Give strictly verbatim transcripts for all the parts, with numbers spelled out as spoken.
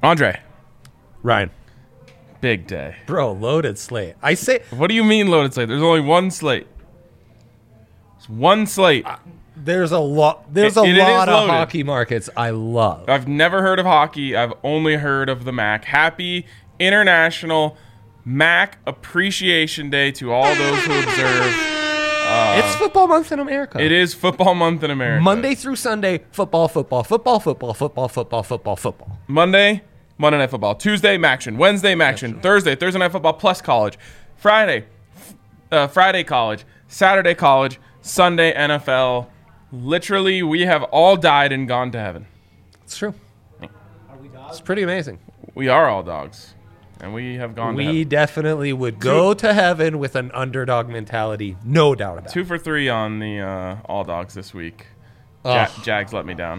Andre. Ryan. Big day. Bro, loaded slate. I say... What do you mean loaded slate? There's only one slate. It's one slate. Uh, there's a lot There's It- a it is lot of loaded. hockey markets I love. I've never heard of hockey. I've only heard of the M A C. Happy International M A C Appreciation Day to all those who observe. Uh, it's football month in America. It is football month in America. Monday through Sunday, football, football, football, football, football, football, football, football. Monday, Monday Night Football. Tuesday, Maction. Wednesday, Maction. Thursday, Thursday Night Football plus college. Friday, uh, Friday college. Saturday college. Sunday N F L. Literally, we have all died and gone to heaven. It's true. It's pretty amazing. We are all dogs, and we have gone to We heaven. definitely would go to heaven with an underdog mentality, no doubt about it. Two for three on the uh, all dogs this week. Ja- Ugh. Jags let me down.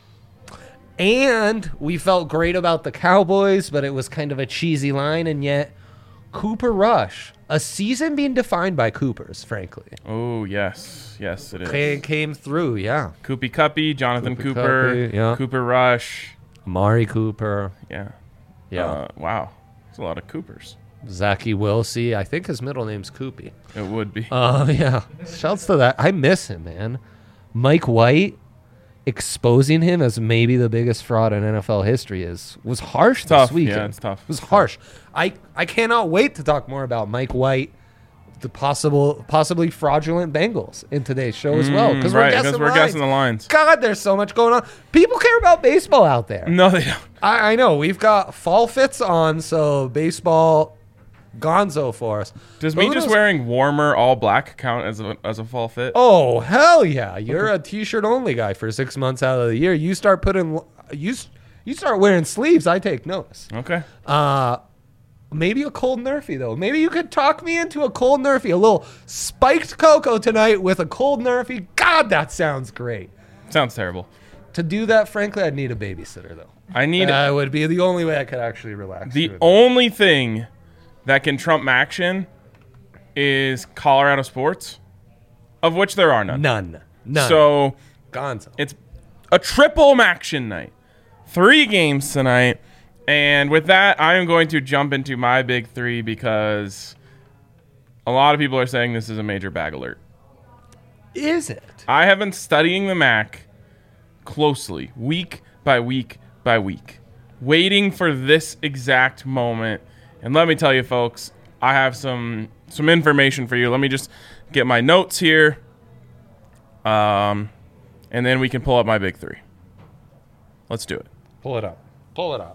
And we felt great about the Cowboys, but it was kind of a cheesy line, and yet Cooper Rush, a season being defined by Coopers, frankly. Oh, yes. Yes, it is. Came, came through, yeah. Koopy Cuppy, Jonathan Koopy Cooper, Cuppy, yeah. Cooper Rush. Amari Cooper, Yeah. yeah. Uh, wow. There's a lot of Coopers. Zachy Wilsey, I think his middle name's Koopy. It would be. Oh, uh, yeah. Shouts to that. I miss him, man. Mike White exposing him as maybe the biggest fraud in N F L history is was harsh Tough. this weekend. Yeah, it's tough. It was It's harsh. I, I cannot wait to talk more about Mike White, the possible possibly fraudulent Bengals in today's show as well. Because Mm, right, we're guessing because we're lines. guessing the lines. God, there's so much going on. People care about baseball out there. No, they don't. I, I know. We've got fall fits on, so baseball gonzo for us. Does But me who just knows? wearing warmer all black count as a as a fall fit? Oh, hell yeah. You're a t-shirt only guy for six months out of the year. You start putting you you start wearing sleeves, I take notice. Okay. Uh maybe a cold Nerfy though. Maybe you could talk me into a cold Nerfy, a little spiked cocoa tonight with a cold Nerfy. God, that sounds great. Sounds terrible. To do that, frankly, I'd need a babysitter though. I need That would be the only way I could actually relax. the through that. only thing that can trump Maction is Colorado sports, of which there are none. None. None. So Gonzo. it's a triple Maction night. Three games tonight. And with that, I am going to jump into my big three because a lot of people are saying this is a major bag alert. Is it? I have been studying the M A C closely, week by week by week, waiting for this exact moment. And let me tell you, folks, I have some some information for you. Let me just get my notes here, um, and then we can pull up my big three. Let's do it. Pull it up. Pull it up.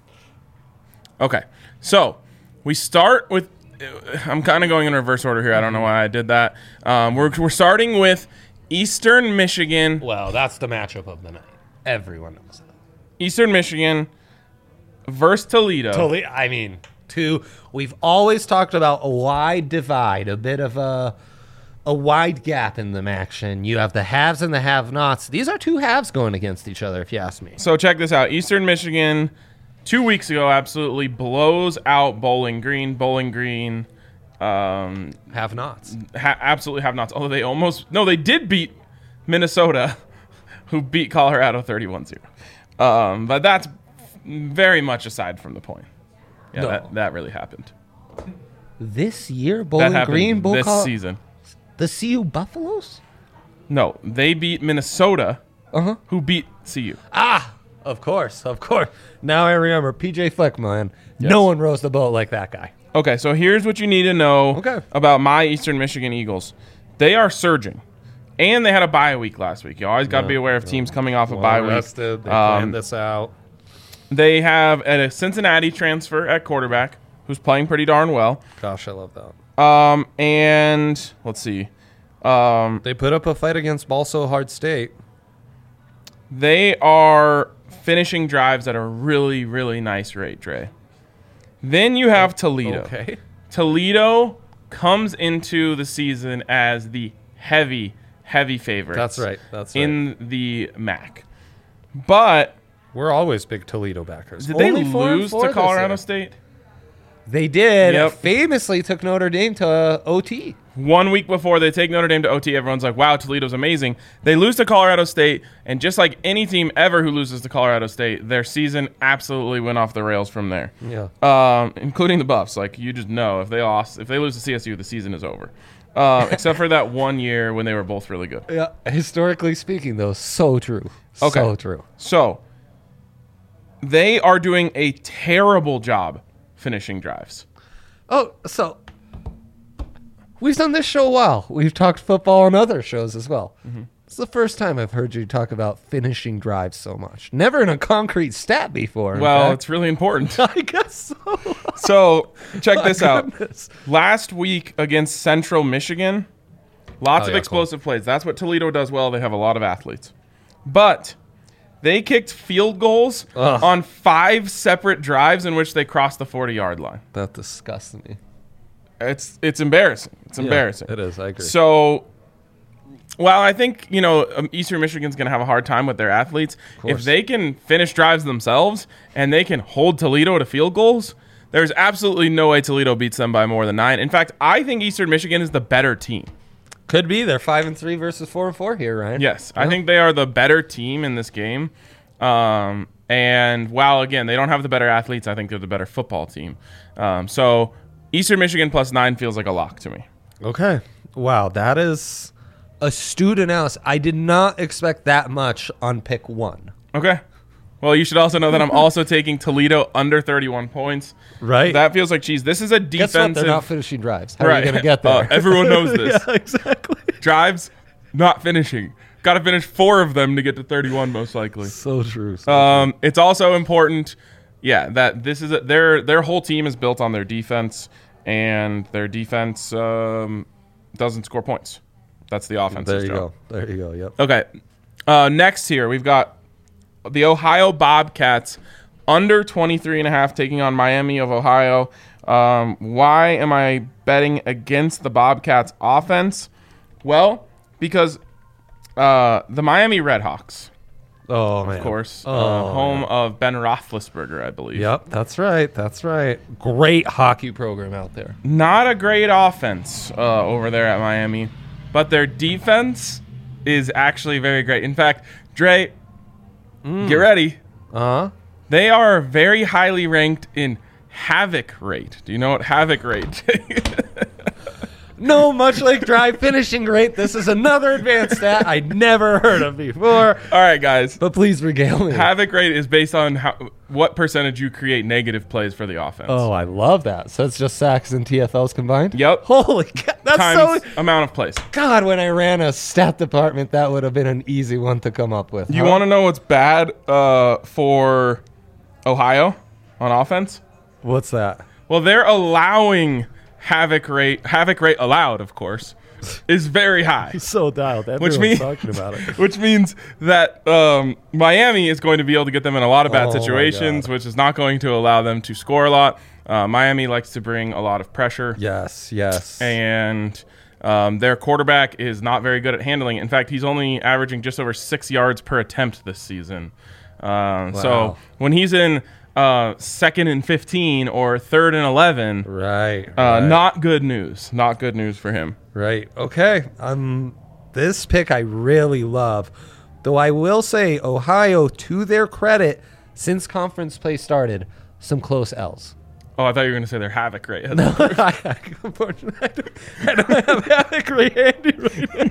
Okay, so we start with. I'm kind of going in reverse order here. I don't know why I did that. Um, we're we're starting with Eastern Michigan. Well, that's the matchup of the night. Everyone knows that. Eastern Michigan versus Toledo. Totally. I mean, two. We've always talked about a wide divide, a bit of a a wide gap in the action. You have the haves and the have-nots. These are two halves going against each other, if you ask me. So check this out. Eastern Michigan, two weeks ago, absolutely blows out Bowling Green. Bowling Green, um, Have-nots. ha- absolutely have nots. Although they almost no, they did beat Minnesota, who beat Colorado thirty-one zero. Um, but that's very much aside from the point. Yeah, No. that, that really happened. This year, That Bowling happened Green, Bull this Col- season. the C U Buffaloes? No, they beat Minnesota, Uh-huh. who beat C U. Ah, of course, of course. Now I remember P J Fleck, man. No one rows the boat like that guy. Okay, so here's what you need to know Okay. about my Eastern Michigan Eagles. They are surging. And they had a bye week last week. You always got to be aware of teams coming off a bye week. Rested. They Um, planned this out. They have a Cincinnati transfer at quarterback who's playing pretty darn well. Gosh, I love that. Um, and let's see. Um, They put up a fight against Balso Hard State. they are finishing drives at a really, really nice rate, Dre. Then you have Toledo. Okay. Toledo comes into the season as the heavy, heavy favorites. That's right. That's right. in the M A C. But We're always big Toledo backers. did they Only four and lose four to this Colorado year. State? They did. Yep. Famously took Notre Dame to uh, O T. One week before they take Notre Dame to O T, everyone's like, wow, Toledo's amazing. They lose to Colorado State, and just like any team ever who loses to Colorado State, their season absolutely went off the rails from there. Yeah. Um, including the Buffs. Like, you just know if they lost, if they lose to C S U, the season is over. Uh, except for that one year when they were both really good. Yeah. Historically speaking, though, so true. Okay. So true. So, they are doing a terrible job finishing drives. Oh, so we've done this show a while. We've talked football on other shows as well. Mm-hmm. It's the first time I've heard you talk about finishing drives so much. Never in a concrete stat before. Well, fact. it's really important. I guess so. So, check this goodness. out. Last week against Central Michigan, lots Oh, of yeah, explosive plays. That's what Toledo does well. They have a lot of athletes. But they kicked field goals Ugh. on five separate drives in which they crossed the forty-yard line. That disgusts me. It's it's embarrassing. It's embarrassing. Yeah, it is. I agree. So, while I think, you know, um, Eastern Michigan's going to have a hard time with their athletes, if they can finish drives themselves and they can hold Toledo to field goals, there's absolutely no way Toledo beats them by more than nine. In fact, I think Eastern Michigan is the better team. Could be. They're five and three versus four and four here, Ryan. Yes, Yeah. I think they are the better team in this game. Um, and while, again, they don't have the better athletes, I think they're the better football team. Um, so Eastern Michigan plus nine feels like a lock to me. Okay. Wow, that is astute analysis. I did not expect that much on pick one. Okay. Well, you should also know that I'm also taking Toledo under thirty-one points. Right. That feels like cheese. This is a Guess defensive. what? They're not finishing drives. How right. are you going to get there? Uh, everyone knows this. Yeah, exactly. Drives, not finishing. Got to finish four of them to get to thirty-one, most likely. So true. So Um, it's also important, yeah, that this is a, their their whole team is built on their defense, and their defense um, doesn't score points. That's the true. offense's There you job. go. There you go. Yep. Okay. Uh, next here, we've got the Ohio Bobcats under twenty-three and a half taking on Miami of Ohio. Um, why am I betting against the Bobcats offense? Well, because uh, the Miami Redhawks, Oh, man. of course, Oh, uh, home man. of Ben Roethlisberger, I believe. Yep, that's right. That's right. Great hockey program out there. Not a great offense uh, over there at Miami, but their defense is actually very great. In fact, Dre, Mm. get ready. Uh-huh. They are very highly ranked in havoc rate. Do you know what havoc rate? No, much like drive finishing rate, this is another advanced stat I never heard of before. All right, guys. But please regale me. Havoc rate is based on how what percentage you create negative plays for the offense. Oh, I love that. So it's just sacks and T F Ls combined? Yep. Holy God. That's Times so... amount of plays. God, when I ran a stat department, that would have been an easy one to come up with. You huh? want to know what's bad uh, for Ohio on offense? What's that? Well, they're allowing havoc rate. Havoc rate allowed, of course, is very high. So dialed. Which means, talking about it. which means that um, Miami is going to be able to get them in a lot of bad Oh, my situations, God. which is not going to allow them to score a lot. Uh, Miami likes to bring a lot of pressure, Yes, yes. and um, their quarterback is not very good at handling it. In fact, he's only averaging just over six yards per attempt this season. Um, So Wow. when he's in uh, second and fifteen or third and eleven, right. uh, right. not good news. Not good news for him. Right. Okay. Um, this pick I really love. Though I will say, Ohio, to their credit, since conference play started, some close L's. Oh, I thought you were going to say their havoc rate. Unfortunately, I don't, I don't have Havoc rate handy right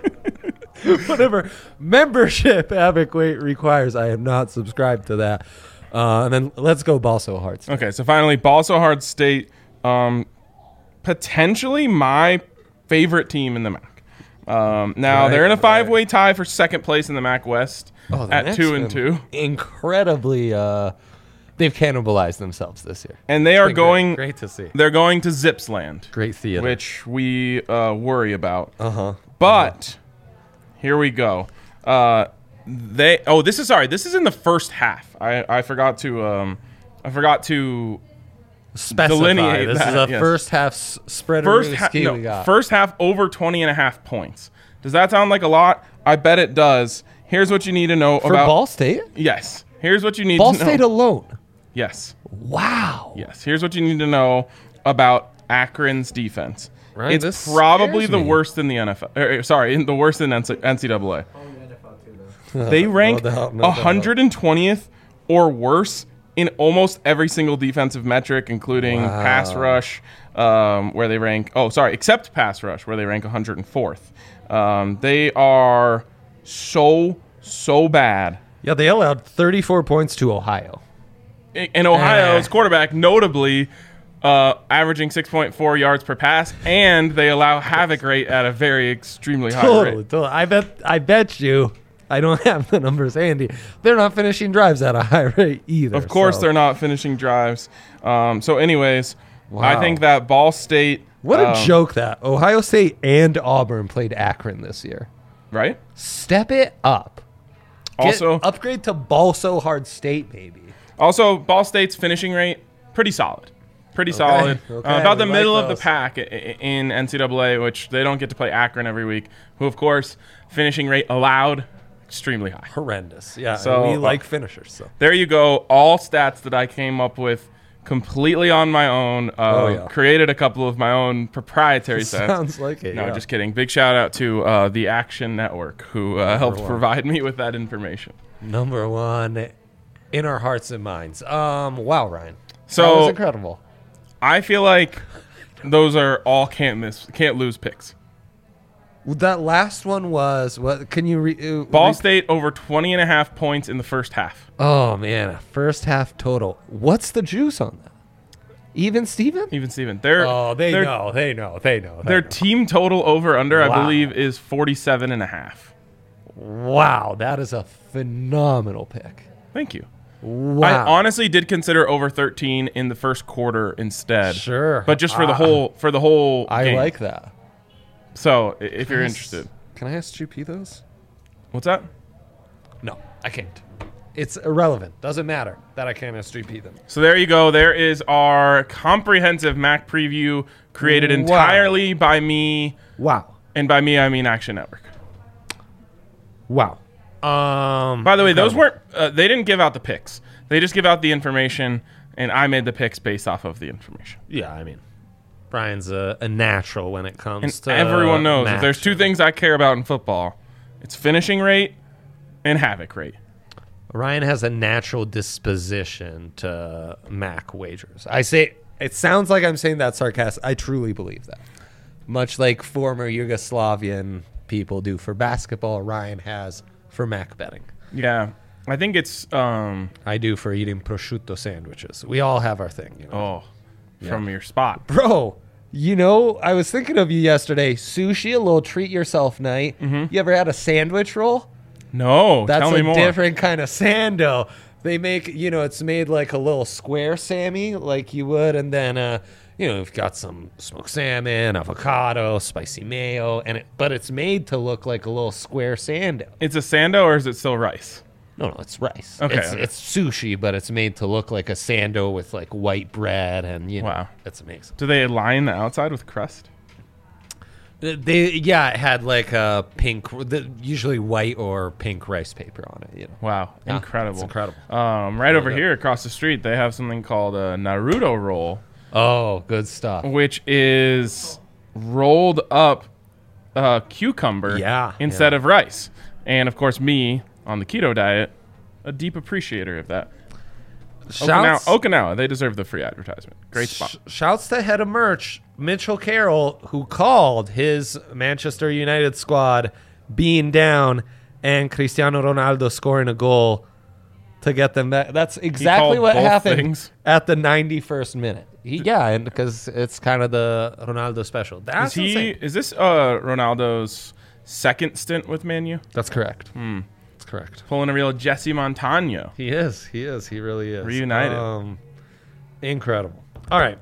now. Whatever membership Havoc rate requires, I am not subscribed to that. Uh, and then let's go ball so hard. Okay, so finally, Ball So Hard State, um, potentially my favorite team in the M A C. Um, now Right, they're in a right. five-way tie for second place in the M A C West Oh, the at Knicks two and have two, Incredibly, uh, they've cannibalized themselves this year. and they It's are been great. going. Great to see. They're going to Zips Land, Great theater. which we uh, worry about. Uh huh. But here we go. Uh, they oh this is sorry this is in the first half. I, I forgot to um I forgot to Specify. delineate This that, is a yes. first half s- spread first of ha- ski no, we got. first half over twenty and a half points. Does that sound like a lot? I bet it does. Here's what you need to know For about Ball State? Yes. Here's what you need Ball to know. State alone. Yes. Wow. Yes. Here's what you need to know about Akron's defense. Right, It's this probably scares the me. worst in the N F L. er, sorry, in the worst in N C double A. They rank No doubt, no doubt. one hundred twentieth or worse in almost every single defensive metric, including Wow. pass rush, um, where they rank. Oh, sorry, except pass rush, where they rank one hundred fourth. Um, they are so so bad. Yeah, they allowed thirty-four points to Ohio. And Ohio's Eh. quarterback, notably, uh, averaging six point four yards per pass, and they allow havoc rate at a very extremely high Totally, rate. totally. I bet. I bet you. I don't have the numbers handy. They're not finishing drives at a high rate either. Of course, so. they're not finishing drives. Um, so, anyways, I Wow. think that Ball State. What a um, joke that Ohio State and Auburn played Akron this year. right? Step it up. Get- Also, upgrade to Balso Hard State, baby. also, Ball State's finishing rate pretty solid, pretty solid. okay, Uh, about we the like middle of the those. pack i- i- in N C double A, which they don't get to play Akron every week. Who, of course, finishing rate allowed extremely high. Horrendous. Yeah, So, we uh, like finishers. So There you go. All stats that I came up with completely on my own. Uh, Oh, yeah. Created a couple of my own proprietary sets. sounds like it. No, yeah. just kidding. Big shout out to uh, the Action Network who uh, helped one. provide me with that information. Number one in our hearts and minds. Um, wow, Ryan. So- that was incredible. I feel like those are all can't miss, can't lose picks. That last one was what? Can you re? Uh, Ball re- State over twenty and a half points in the first half. Oh man, first half total. What's the juice on that? Even Steven? Even Steven. Their, Oh, they their, know. They know. They know. They Their know. team total over under, I Wow. believe, is forty-seven and a half. Wow, that is a phenomenal pick. Thank you. Wow. I honestly did consider over thirteen in the first quarter instead. Sure. But just for the Ah. whole for the whole I game. like that. So, i- if you're Can I s- interested. Can I S G P those? What's that? No, I can't. It's irrelevant. Doesn't matter that I can't S G P them. So there you go. There is our comprehensive Mac preview created Wow. entirely by me, Wow. and by me I mean Action Network. Wow. Um. By the way, those incredible. weren't uh, they didn't give out the picks. They just give out the information, and I made the picks based off of the information. Yeah, I mean, Brian's a, a natural when it comes And to everyone knows if match. there's two things I care about in football, it's finishing rate and havoc rate. Ryan has a natural disposition to Mac wagers. I say it sounds like I'm saying that sarcastic. I truly believe that. Much like former Yugoslavian people do for basketball, Ryan has for Mac betting. Yeah, I think it's um I do for eating prosciutto sandwiches. We all have our thing, you know. oh from your spot. Bro, you know, I was thinking of you yesterday. Sushi, a little treat yourself night. Mm-hmm. You ever had a sandwich roll? No, That's tell me a more. different kind of sando. They make, you know, it's made like a little square Sammy, like you would, and then, uh, you know, you've got some smoked salmon, avocado, spicy mayo, and it, but it's made to look like a little square sando. It's a sando or is it still rice? No, no, it's rice. Okay, it's, okay. it's sushi, but it's made to look like a sando with like white bread, and you know, Wow. it's amazing. Do they line the outside with crust? They, yeah, it had like a pink, the, usually white or pink rice paper on it. You know, Wow, Yeah, incredible! it's incredible. Um, right over good. here across the street, they have something called a Naruto roll, oh, good stuff. which is rolled up uh, cucumber Yeah, instead yeah. of rice. And of course, me on the keto diet, a deep appreciator of that. Okinawa, Shouts, Okinawa, they deserve the free advertisement. Great spot. sh- shouts to head of merch, Mitchell Carroll, who called his Manchester United squad being down and Cristiano Ronaldo scoring a goal to get them back. That's exactly called what both happened things? at the ninety-first minute. He, yeah, and because it's kind of the Ronaldo special. That's Is he? insane. Is this uh, Ronaldo's second stint with Man U? That's correct. That's correct. Pulling a real Jesse Montano. He is. He is. He really is. Reunited. Um, incredible. All right.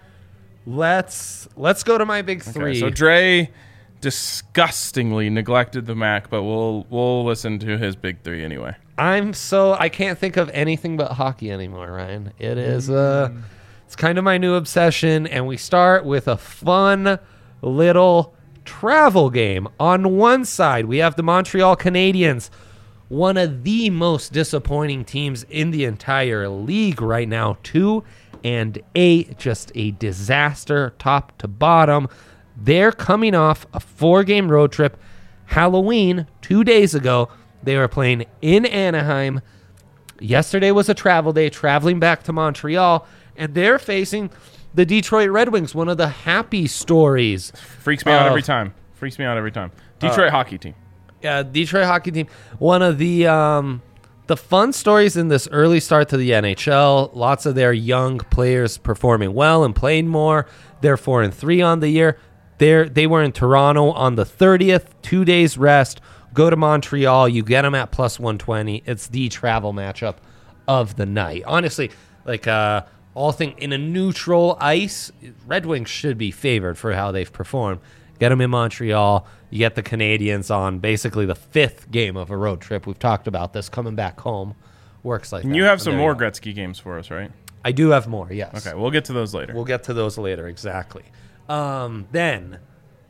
Let's let's go to my big three. Okay, so Dre disgustingly neglected the Mac, but we'll we'll listen to his big three anyway. I'm so I can't think of anything but hockey anymore, Ryan. It is uh it's kind of my new obsession, and we start with a fun little travel game. On one side, we have the Montreal Canadiens one of the most disappointing teams in the entire league right now. Two and eight, just a disaster top to bottom. They're coming off a four-game road trip. Halloween, two days ago, they were playing in Anaheim. Yesterday was a travel day, traveling back to Montreal, and they're facing the Detroit Red Wings, one of the happy stories. Freaks me out of- every time. Freaks me out every time. Detroit Uh, hockey team. Yeah, Detroit hockey team. One of the um, the fun stories in this early start to the N H L. Lots of their young players performing well and playing more. They're four and three on the year. They're, they were in Toronto on the thirtieth, two days rest. Go to Montreal. You get them at plus one twenty. It's the travel matchup of the night. Honestly, like uh, all thing in a neutral ice, Red Wings should be favored for how they've performed. Get them in Montreal. You get the Canadians on basically the fifth game of a road trip. We've talked about this coming back home. Works like And that. you have And some there more you go. Gretzky games for us, right? I do have more, yes. Okay, we'll get to those later. We'll get to those later, exactly. Um, then,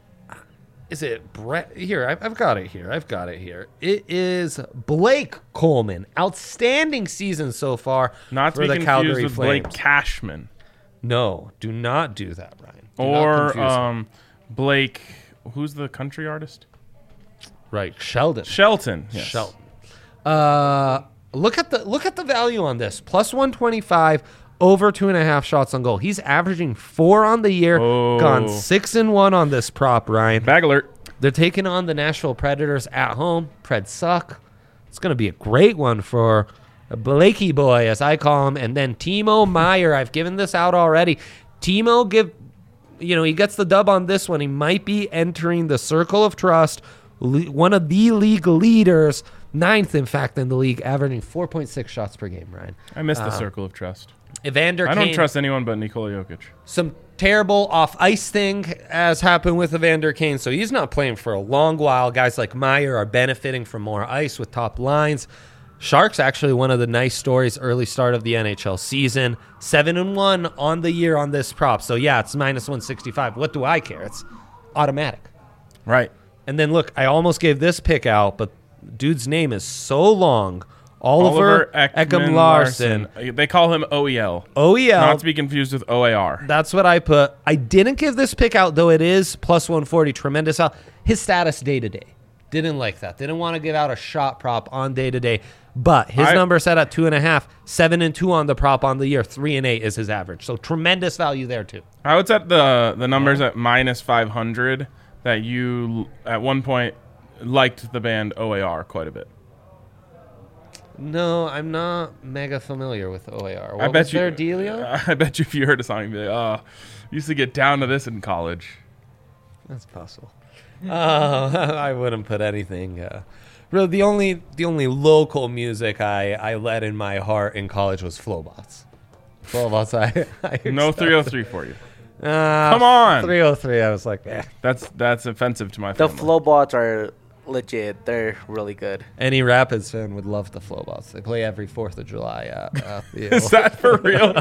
is it Brett? Here, I've, I've got it here. I've got it here. It is Blake Coleman. Outstanding season so far Not to for be the confused Calgary with Flames. Blake Cashman. No, do not do that, Ryan. Do not Or confuse him. um, Blake, who's the country artist? Right, Sheldon. Shelton. Yes. Shelton. Uh, look at the look at the value on this. Plus one twenty five, over two and a half shots on goal. He's averaging four on the year. Oh. Gone six and one on this prop, Ryan. Bag alert. They're taking on the Nashville Predators at home. Preds suck. It's going to be a great one for Blakey boy, as I call him. And then Timo Meyer. I've given this out already. Timo, give, you know, he gets the dub on this one. He might be entering the circle of trust. Le- one of the league leaders, ninth, in fact, in the league, averaging four point six shots per game, Ryan. I missed the Uh, circle of trust. Evander I don't Kane, trust anyone but Nikola Jokic. some terrible off ice thing as happened with Evander Kane, so he's not playing for a long while. Guys like Meyer are benefiting from more ice with top lines. Sharks actually one of the nice stories early start of the N H L season. Seven and one on the year on this prop. So yeah, it's minus one sixty-five. What do I care? It's automatic. Right. And then look, I almost gave this pick out, but dude's name is so long. Oliver, Ekman Larson. They call him O E L. O E L. Not to be confused with O A R. That's what I put. I didn't give this pick out, though it is plus one forty. Tremendous out. His status day to day. Didn't like that. Didn't want to give out a shot prop on day to day. But his I- number set at two and a half, seven and two on the prop on the year, three and eight is his average. So tremendous value there too. I would set the the numbers at minus five hundred. That you at one point liked the band O A R quite a bit. No, I'm not mega familiar with O A R. What I bet was you. their dealio? I bet you if you heard a song, you'd be like, "Oh, used to get down to this in college." That's possible. uh, I wouldn't put anything. Uh, really, the only the only local music I, I let in my heart in college was Flowbots. Flowbots, I, I No three oh three for you. Uh, Come on. three oh three. I was like, eh. That's that's offensive to my The family. Flowbots are legit. They're really good. Any Rapids fan would love the Flowbots. They play every Fourth of July at, at the Is that for real?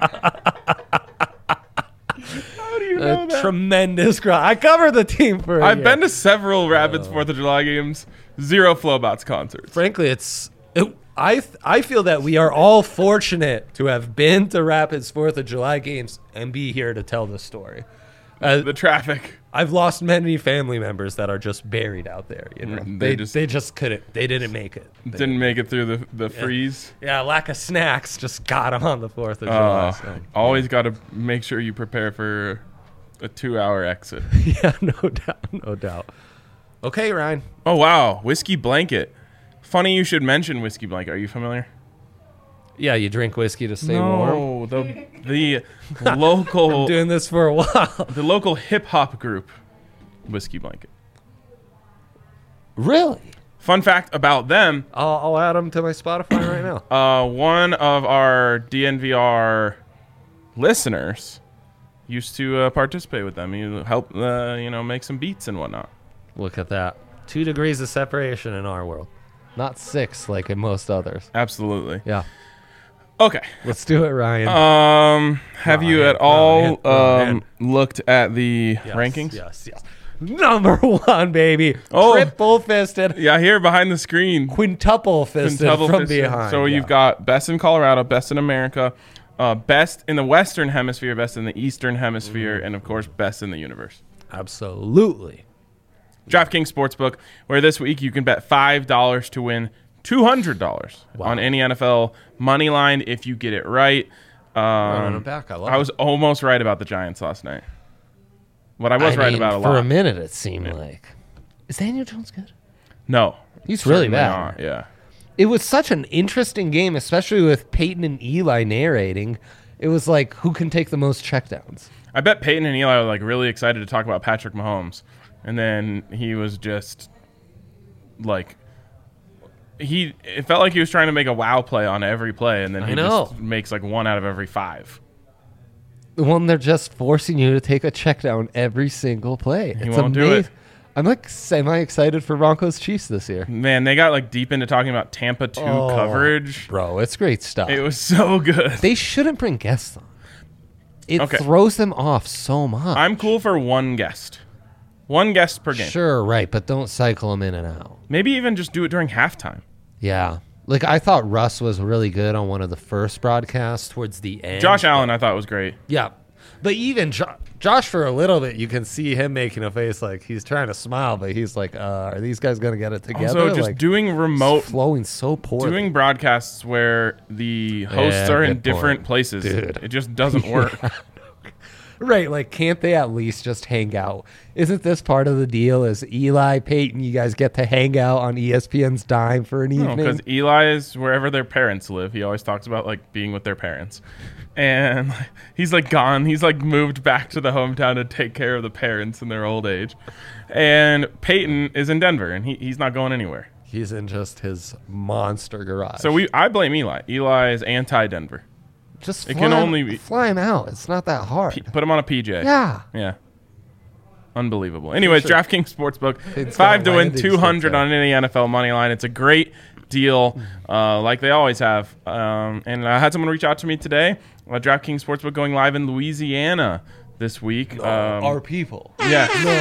How do you know a that? tremendous crowd. I covered the team for. a I've year. been to several Rapids Fourth of July games. Zero Flowbots concerts. Frankly, it's. It, I th- I feel that we are all fortunate to have been to Rapids Fourth of July games and be here to tell this story. Uh, The traffic. I've lost many family members that are just buried out there. You know, Mm, they, they they just- just couldn't. They didn't make it. They- Didn't make it through the the freeze. yeah, lack of snacks just got them on the Fourth of July. Uh, so. always got to make sure you prepare for a two-hour exit. Yeah, no doubt, no doubt. Okay, Ryan. Oh wow, whiskey blanket. Funny you should mention whiskey blanket. Are you familiar? Yeah, you drink whiskey to stay warm. No, the the local I'm doing this for a while. the local hip hop group, whiskey blanket. Really? Fun fact about them: I'll, I'll add them to my Spotify right now. uh, one of our D N V R listeners used to uh, participate with them. You help, uh, you know, make some beats and whatnot. Look at that. Two degrees of separation in our world. Not six like in most others. Absolutely. Yeah. Okay. Let's do it, Ryan. Um, have you Ryan, at all Ryan, Ryan. um looked at the Yes, rankings? Yes, yes. number one, baby. Oh. Triple fisted, Yeah, here behind the screen. quintuple fisted Quintuple from fisted. behind. So yeah. you've got best in Colorado, best in America, uh, best in the Western Hemisphere, best in the Eastern Hemisphere, Mm. and of course, best in the universe. Absolutely. DraftKings Sportsbook, where this week you can bet five dollars to win two hundred dollars Wow. on any N F L money line if you get it right. Running Um, it back. I love I it. was almost right about the Giants last night. What I was I right mean, about a for lot. a minute, it seemed like. Is Daniel Jones good? No. He's really certainly bad. not, Yeah. It was such an interesting game, especially with Peyton and Eli narrating. It was like, who can take the most checkdowns? I bet Peyton and Eli were like really excited to talk about Patrick Mahomes. And then he was just like he it felt like he was trying to make a wow play on every play, and then I he know. just makes like one out of every five. The one they're just forcing you to take a check down every single play. He It's won't do it. amazing. I'm like semi excited for Broncos Chiefs this year. Man, they got like deep into talking about Tampa two Oh, coverage. Bro, it's great stuff. It was so good. They shouldn't bring guests on. It Okay. throws them off so much. I'm cool for one guest. One guest per game. Sure, right, but don't cycle them in and out. Maybe even just do it during halftime. Yeah. Like, I thought Russ was really good on one of the first broadcasts towards the end. Josh Allen I thought was great. Yeah. But even jo- Josh, for a little bit, you can see him making a face like he's trying to smile, but he's like, uh, are these guys going to get it together? Also just like, doing it's remote flowing so poorly. doing broadcasts where the hosts Yeah, are in good different point. places. Dude. It just doesn't work. Right, like, can't they at least just hang out? Isn't this part of the deal? Is Eli, Peyton, you guys get to hang out on E S P N's dime for an No, evening? because Eli is wherever their parents live. He always talks about like being with their parents, and he's like gone. He's like moved back to the hometown to take care of the parents in their old age. And Peyton is in Denver, and he, he's not going anywhere. He's in just his monster garage. So we, I blame Eli. Eli is anti-Denver. just it fly, can him- only be- fly him out. It's not that hard. P- put him on a P J. yeah. Yeah. Unbelievable. Anyways, Sure. DraftKings Sportsbook, It's five got to win, landing two hundred strips, on any N F L money line. It's a great deal, uh, like they always have. Um, and I had someone reach out to me today. Uh, DraftKings Sportsbook going live in Louisiana this week. Um, Our people. yeah, No.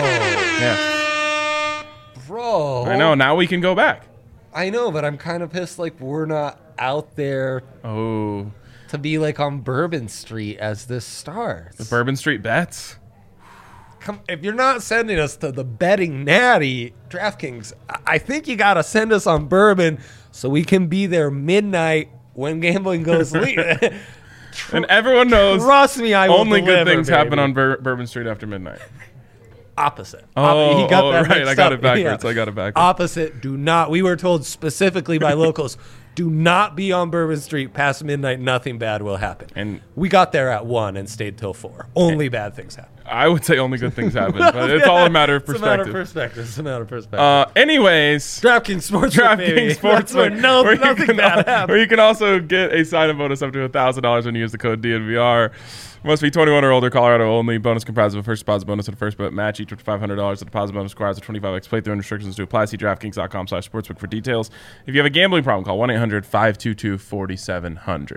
yeah. Bro. I know. Now we can go back. I know, but I'm kind of pissed like we're not out there Oh, to be like on Bourbon Street as this starts. the Bourbon Street bets. Come, if you're not sending us to the betting natty, DraftKings, I- I think you got to send us on Bourbon so we can be there midnight when gambling goes legal. And everyone knows Trust me, I will only good deliver, things happen baby. on Bur- Bourbon Street after midnight. Opposite. Oh, Op- he got oh, that right. mixed I got up. it backwards. Yeah. I got it backwards. Opposite. Do not. We were told specifically by locals, do not be on Bourbon Street past midnight. Nothing bad will happen. And we got there at one and stayed till four. Only bad things happen. I would say only good things happen, but it's all a matter of It's a matter of perspective. perspective. It's a matter of perspective. Uh, anyways, DraftKings Sportsbook, baby. DraftKings That's where Sportsbook, no, where you nothing can bad al- happens. where you can also get a sign-up bonus up to one thousand dollars when you use the code D N V R. Must be twenty-one or older, Colorado only. Bonus comprised of a first deposit bonus and a first bet match, each with five hundred dollars. The deposit bonus requires a twenty-five x playthrough and restrictions to apply. See DraftKings.com slash sportsbook for details. If you have a gambling problem, call one eight hundred five two two four seven zero zero.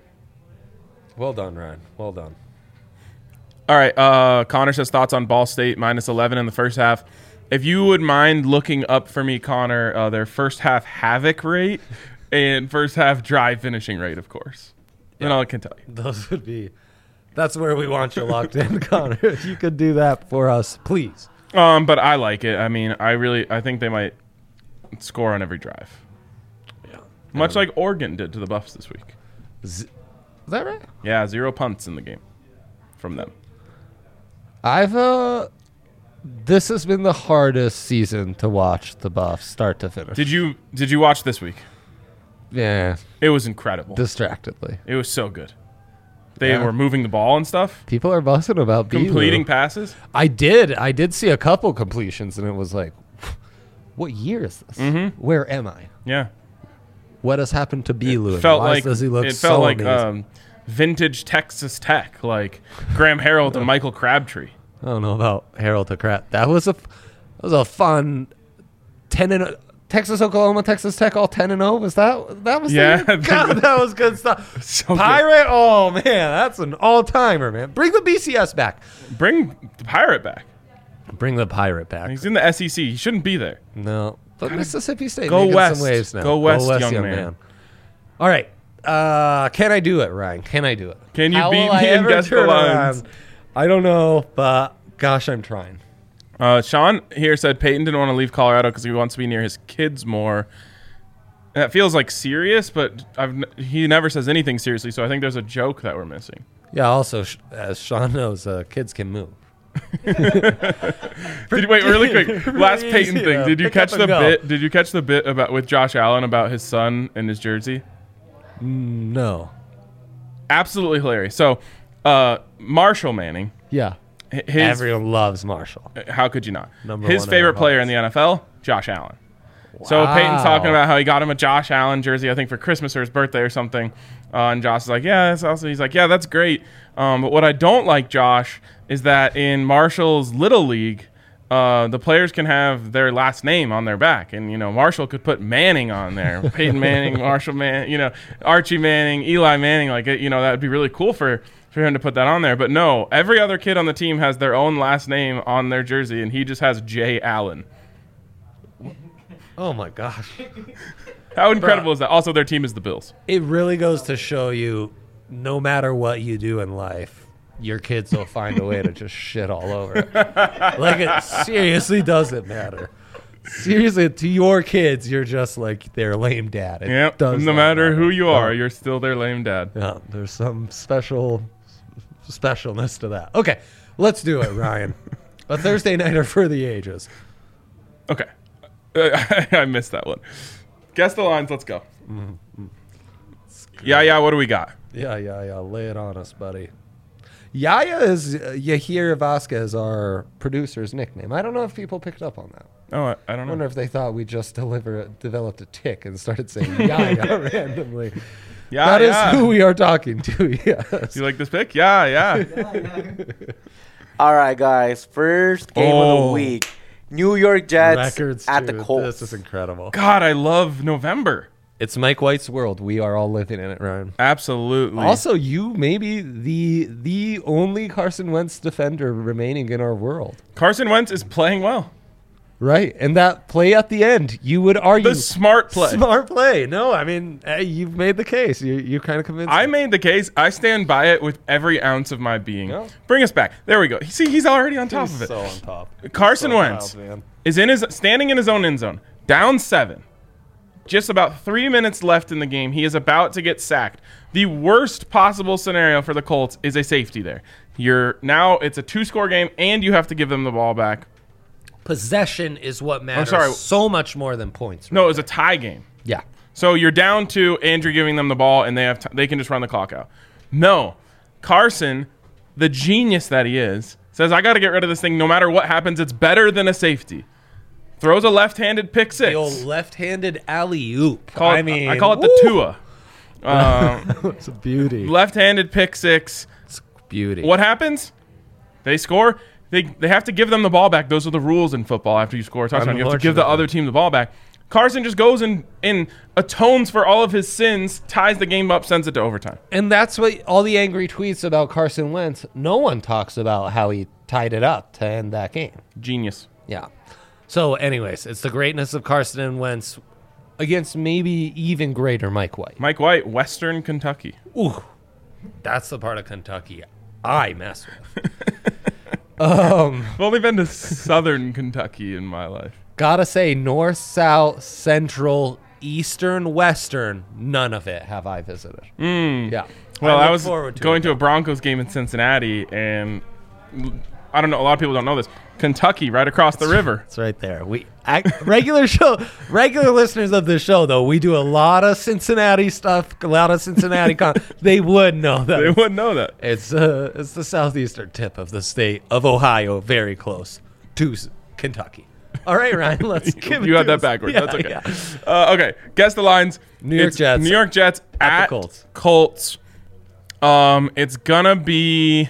Well done, Ryan. Well done. All right. Uh, Connor says thoughts on Ball State minus eleven in the first half. If you would mind looking up for me, Connor, uh, their first half havoc rate and first half drive finishing rate, of course. Then all I can tell you. Those would be. That's where we want you locked in, Connor. If you could do that for us, please. Um, but I like it. I mean, I really, I think they might score on every drive, Yeah. much like Oregon did to the Buffs this week. Z- Is that right? Yeah, zero punts in the game from them. I've uh this has been the hardest season to watch the Buffs start to finish. Did you did you watch this week? Yeah, It was incredible. distractedly. It was so good. They Yeah. were moving the ball and stuff, People are buzzing about B-Lou. completing passes. I did. I did see a couple completions, and it was like, what year is this? Mm-hmm. Where am I? Yeah. What has happened to B-Lou? and felt why like does he look it so felt like amazing? um, vintage Texas Tech, like Graham Harrell and Michael Crabtree. I don't know about Harold to crap. That was a, that was a fun ten and Texas, Oklahoma, Texas Tech, all ten and zero. Was that that was? Yeah, the, God, that was good stuff. So good. Pirate. Oh man, that's an all timer, man. Bring the B C S back. Bring the Pirate back. Bring the pirate back. He's in the S E C. He shouldn't be there. No. But Mississippi State go making west. some waves now. Go west, young man. All right. Uh, can I do it, Ryan? Can I do it? Can you How beat will I me and ever guess the turn lines? around? I don't know, but gosh, I'm trying. Uh, Sean here said Peyton didn't want to leave Colorado because he wants to be near his kids more. That feels like serious, but I've n- he never says anything seriously, so I think there's a joke that we're missing. Yeah, also, sh- as Sean knows, uh, kids can move. Did you, wait, really quick. Last Peyton Easy, thing. though. Did you Pick catch up the and go. bit? Did you catch the bit about with Josh Allen about his son and his jersey? No. Absolutely hilarious. So, uh, Marshall Manning. Yeah. His, Everyone loves Marshall. How could you not? Number His one in favorite our player hearts. in the N F L, Josh Allen. So Peyton's talking about how he got him a Josh Allen jersey, I think for Christmas or his birthday or something. Uh, and Josh is like, yeah, that's also. He's like, yeah, that's great. Um, but what I don't like, Josh, is that in Marshall's Little League, uh, the players can have their last name on their back. And, you know, Marshall could put Manning on there. Peyton Manning, Marshall Manning, you know, Archie Manning, Eli Manning. Like, you know, that would be really cool for, for him to put that on there. But no, every other kid on the team has their own last name on their jersey, and he just has J. Allen. Oh, my gosh. How incredible is that? Also, their team is the Bills. It really goes to show you, no matter what you do in life, your kids will find a way to just shit all over it. Like, it seriously doesn't matter. Seriously, to your kids, you're just like their lame dad. It Yep. does No not matter who you are, No. you're still their lame dad. Yeah, there's some special specialness to that. Okay, let's do it, Ryan. A Thursday nighter for the ages. Okay. I missed that one. Guess the lines. Let's go. Mm-hmm. Yeah, yeah. What do we got? Yeah, yeah, yeah. Lay it on us, buddy. Yaya is uh, Yahir Vasquez, our producer's nickname. I don't know if people picked up on that. Oh, I, I don't I know. wonder if they thought we just deliver, developed a tick and started saying Yaya randomly. Yeah, That is yeah. who we are talking to, yes. You like this pick? Yeah, yeah. All right, guys. First game of Oh. the week. New York Jets Records, at dude. the Colts. This is incredible. God, I love November. It's Mike White's world. We are all living in it, Ryan. Absolutely. Also, you may be the the only Carson Wentz defender remaining in our world. Carson Wentz is playing well. Right. And that play at the end, you would argue. The smart play. Smart play. No, I mean, hey, you've made the case. You you kind of convinced I me. made the case. I stand by it with every ounce of my being. Yeah. Bring us back. There we go. See, he's already on top He's of it. so on top. Carson So Wentz proud, man. is in his standing in his own end zone, down seven. Just about three minutes left in the game. He is about to get sacked. The worst possible scenario for the Colts is a safety there. You're now it's a two-score game, and you have to give them the ball back. Possession is what matters sorry. so much more than points. No, right? it was a tie game. Yeah. So you're down to Andrew giving them the ball, and they have t- they can just run the clock out. No, Carson, the genius that he is, says I got to get rid of this thing. No matter what happens, it's better than a safety. Throws a left-handed pick six. The old left-handed alley-oop. Call it- I mean, I call it the woo! Tua. Um, It's a beauty. left-handed pick six. It's beauty. What happens? They score. They they have to give them the ball back. Those are the rules in football. After you score a touchdown, you have to give the Unfortunately. other team the ball back. Carson just goes and, and atones for all of his sins, ties the game up, sends it to overtime. And that's what all the angry tweets about Carson Wentz, no one talks about how he tied it up to end that game. Genius. Yeah. So, anyways, it's the greatness of Carson and Wentz against maybe even greater Mike White. Mike White, Western Kentucky. Ooh, that's the part of Kentucky I mess with. um, I've only been to Southern Kentucky in my life. gotta say, North, South, Central, Eastern, Western, none of it have I visited. Yeah. Well, I, look was forward to going it, to a Broncos game in Cincinnati, and I don't know. A lot of people don't know this. Kentucky, right across the river. It's right there. We I, regular show, regular listeners of the show, though, we do a lot of Cincinnati stuff, a lot of Cincinnati. Con- they would know that. They wouldn't know that. It's uh, it's the southeastern tip of the state of Ohio, very close to S- Kentucky. All right, Ryan, let's give it You to had that us. backwards. Yeah, That's okay. yeah. Uh, okay, guess the lines. New York It's Jets New York Jets at at, the Colts. Colts. Um, it's gonna be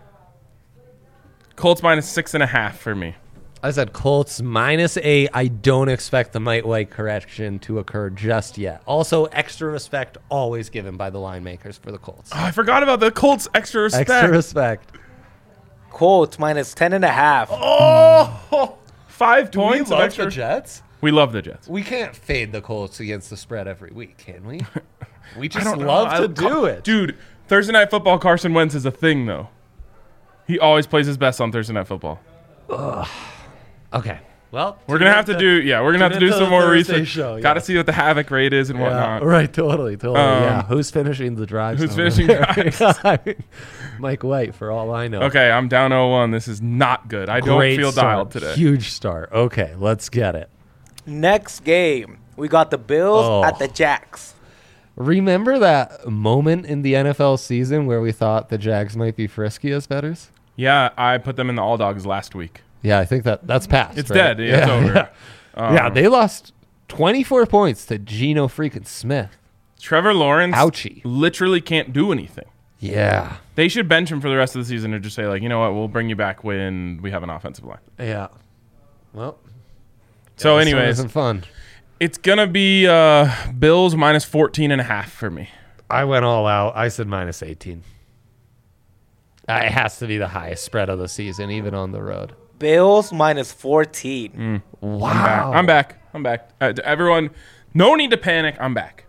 Colts minus six and a half for me. I said Colts minus eight. I don't expect the Mike White correction to occur just yet. Also, extra respect always given by the line makers for the Colts. Oh, I forgot about the Colts extra respect. Extra respect. Colts minus ten and a half. Oh, Five do we points of love extra. the Jets? We love the Jets. We can't fade the Colts against the spread every week, can we? We I just don't know. love I- to do it. Dude, Thursday Night Football, Carson Wentz is a thing, though. He always plays his best on Thursday Night Football. Okay. Well, We're going to have to do, yeah, we're going to have to tune do into some the more Thursday research. show, Got to yeah. see what the havoc rate is and Yeah, whatnot. right, totally, totally. Um, yeah. Who's finishing the drive? Who's somewhere? finishing drives? I mean, Mike White, for all I know. Okay, I'm down oh one. This is not good. I don't Great feel start. dialed today. Huge start. Okay, let's get it. Next game, we got the Bills Oh. at the Jacks. Remember that moment in the N F L season where we thought the Jags might be frisky as betters? Yeah, I put them in the All Dogs last week. Yeah, I think that that's past. It's right? dead. Yeah, it's over. Yeah. Um, Yeah, they lost twenty-four points to Geno freaking Smith. Trevor Lawrence Ouchie. literally can't do anything. Yeah. They should bench him for the rest of the season and just say, like, you know what, we'll bring you back when we have an offensive line. Yeah. Well. So, this one anyways, isn't fun. it's going to be uh, Bills minus fourteen and a half for me. I went all out. I said minus eighteen. Uh, it has to be the highest spread of the season, even on the road. Bills minus fourteen. Wow. I'm back. I'm back. Uh, to everyone, no need to panic. I'm back.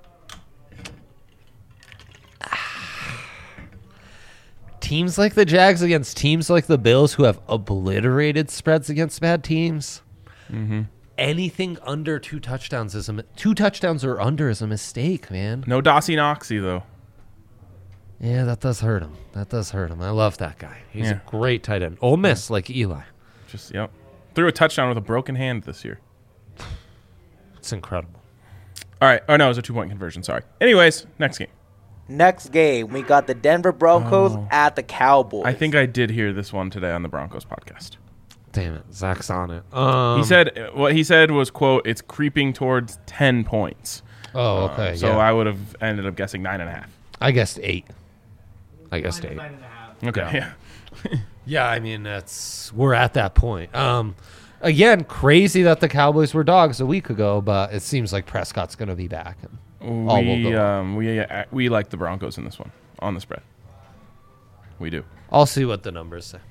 Teams like the Jags against teams like the Bills who have obliterated spreads against bad teams. Mm-hmm. Anything under two touchdowns is a mi- two touchdowns or under is a mistake, man. No Dossie Noxie, though. Yeah, that does hurt him. That does hurt him. I love that guy. He's Yeah. a great tight end. Ole Miss, like Eli. Just, yep. Threw a touchdown with a broken hand this year. It's incredible. All right. Oh, no, it was a two-point conversion. Sorry. Anyways, next game. Next game, we got the Denver Broncos Oh. at the Cowboys. I think I did hear this one today on the Broncos podcast. Damn it, Zach's on it. Um, He said what he said was, quote, it's creeping towards ten points. "Oh, Uh, okay, so yeah. I would have ended up guessing nine and a half. I guessed eight. I guessed eight. Okay. Yeah. Yeah, I mean that's we're at that point. Um, again, crazy that the Cowboys were dogs a week ago, but it seems like Prescott's going to be back. And all will We go well. um we uh, we like the Broncos in this one on the spread. We do. I'll see what the numbers say.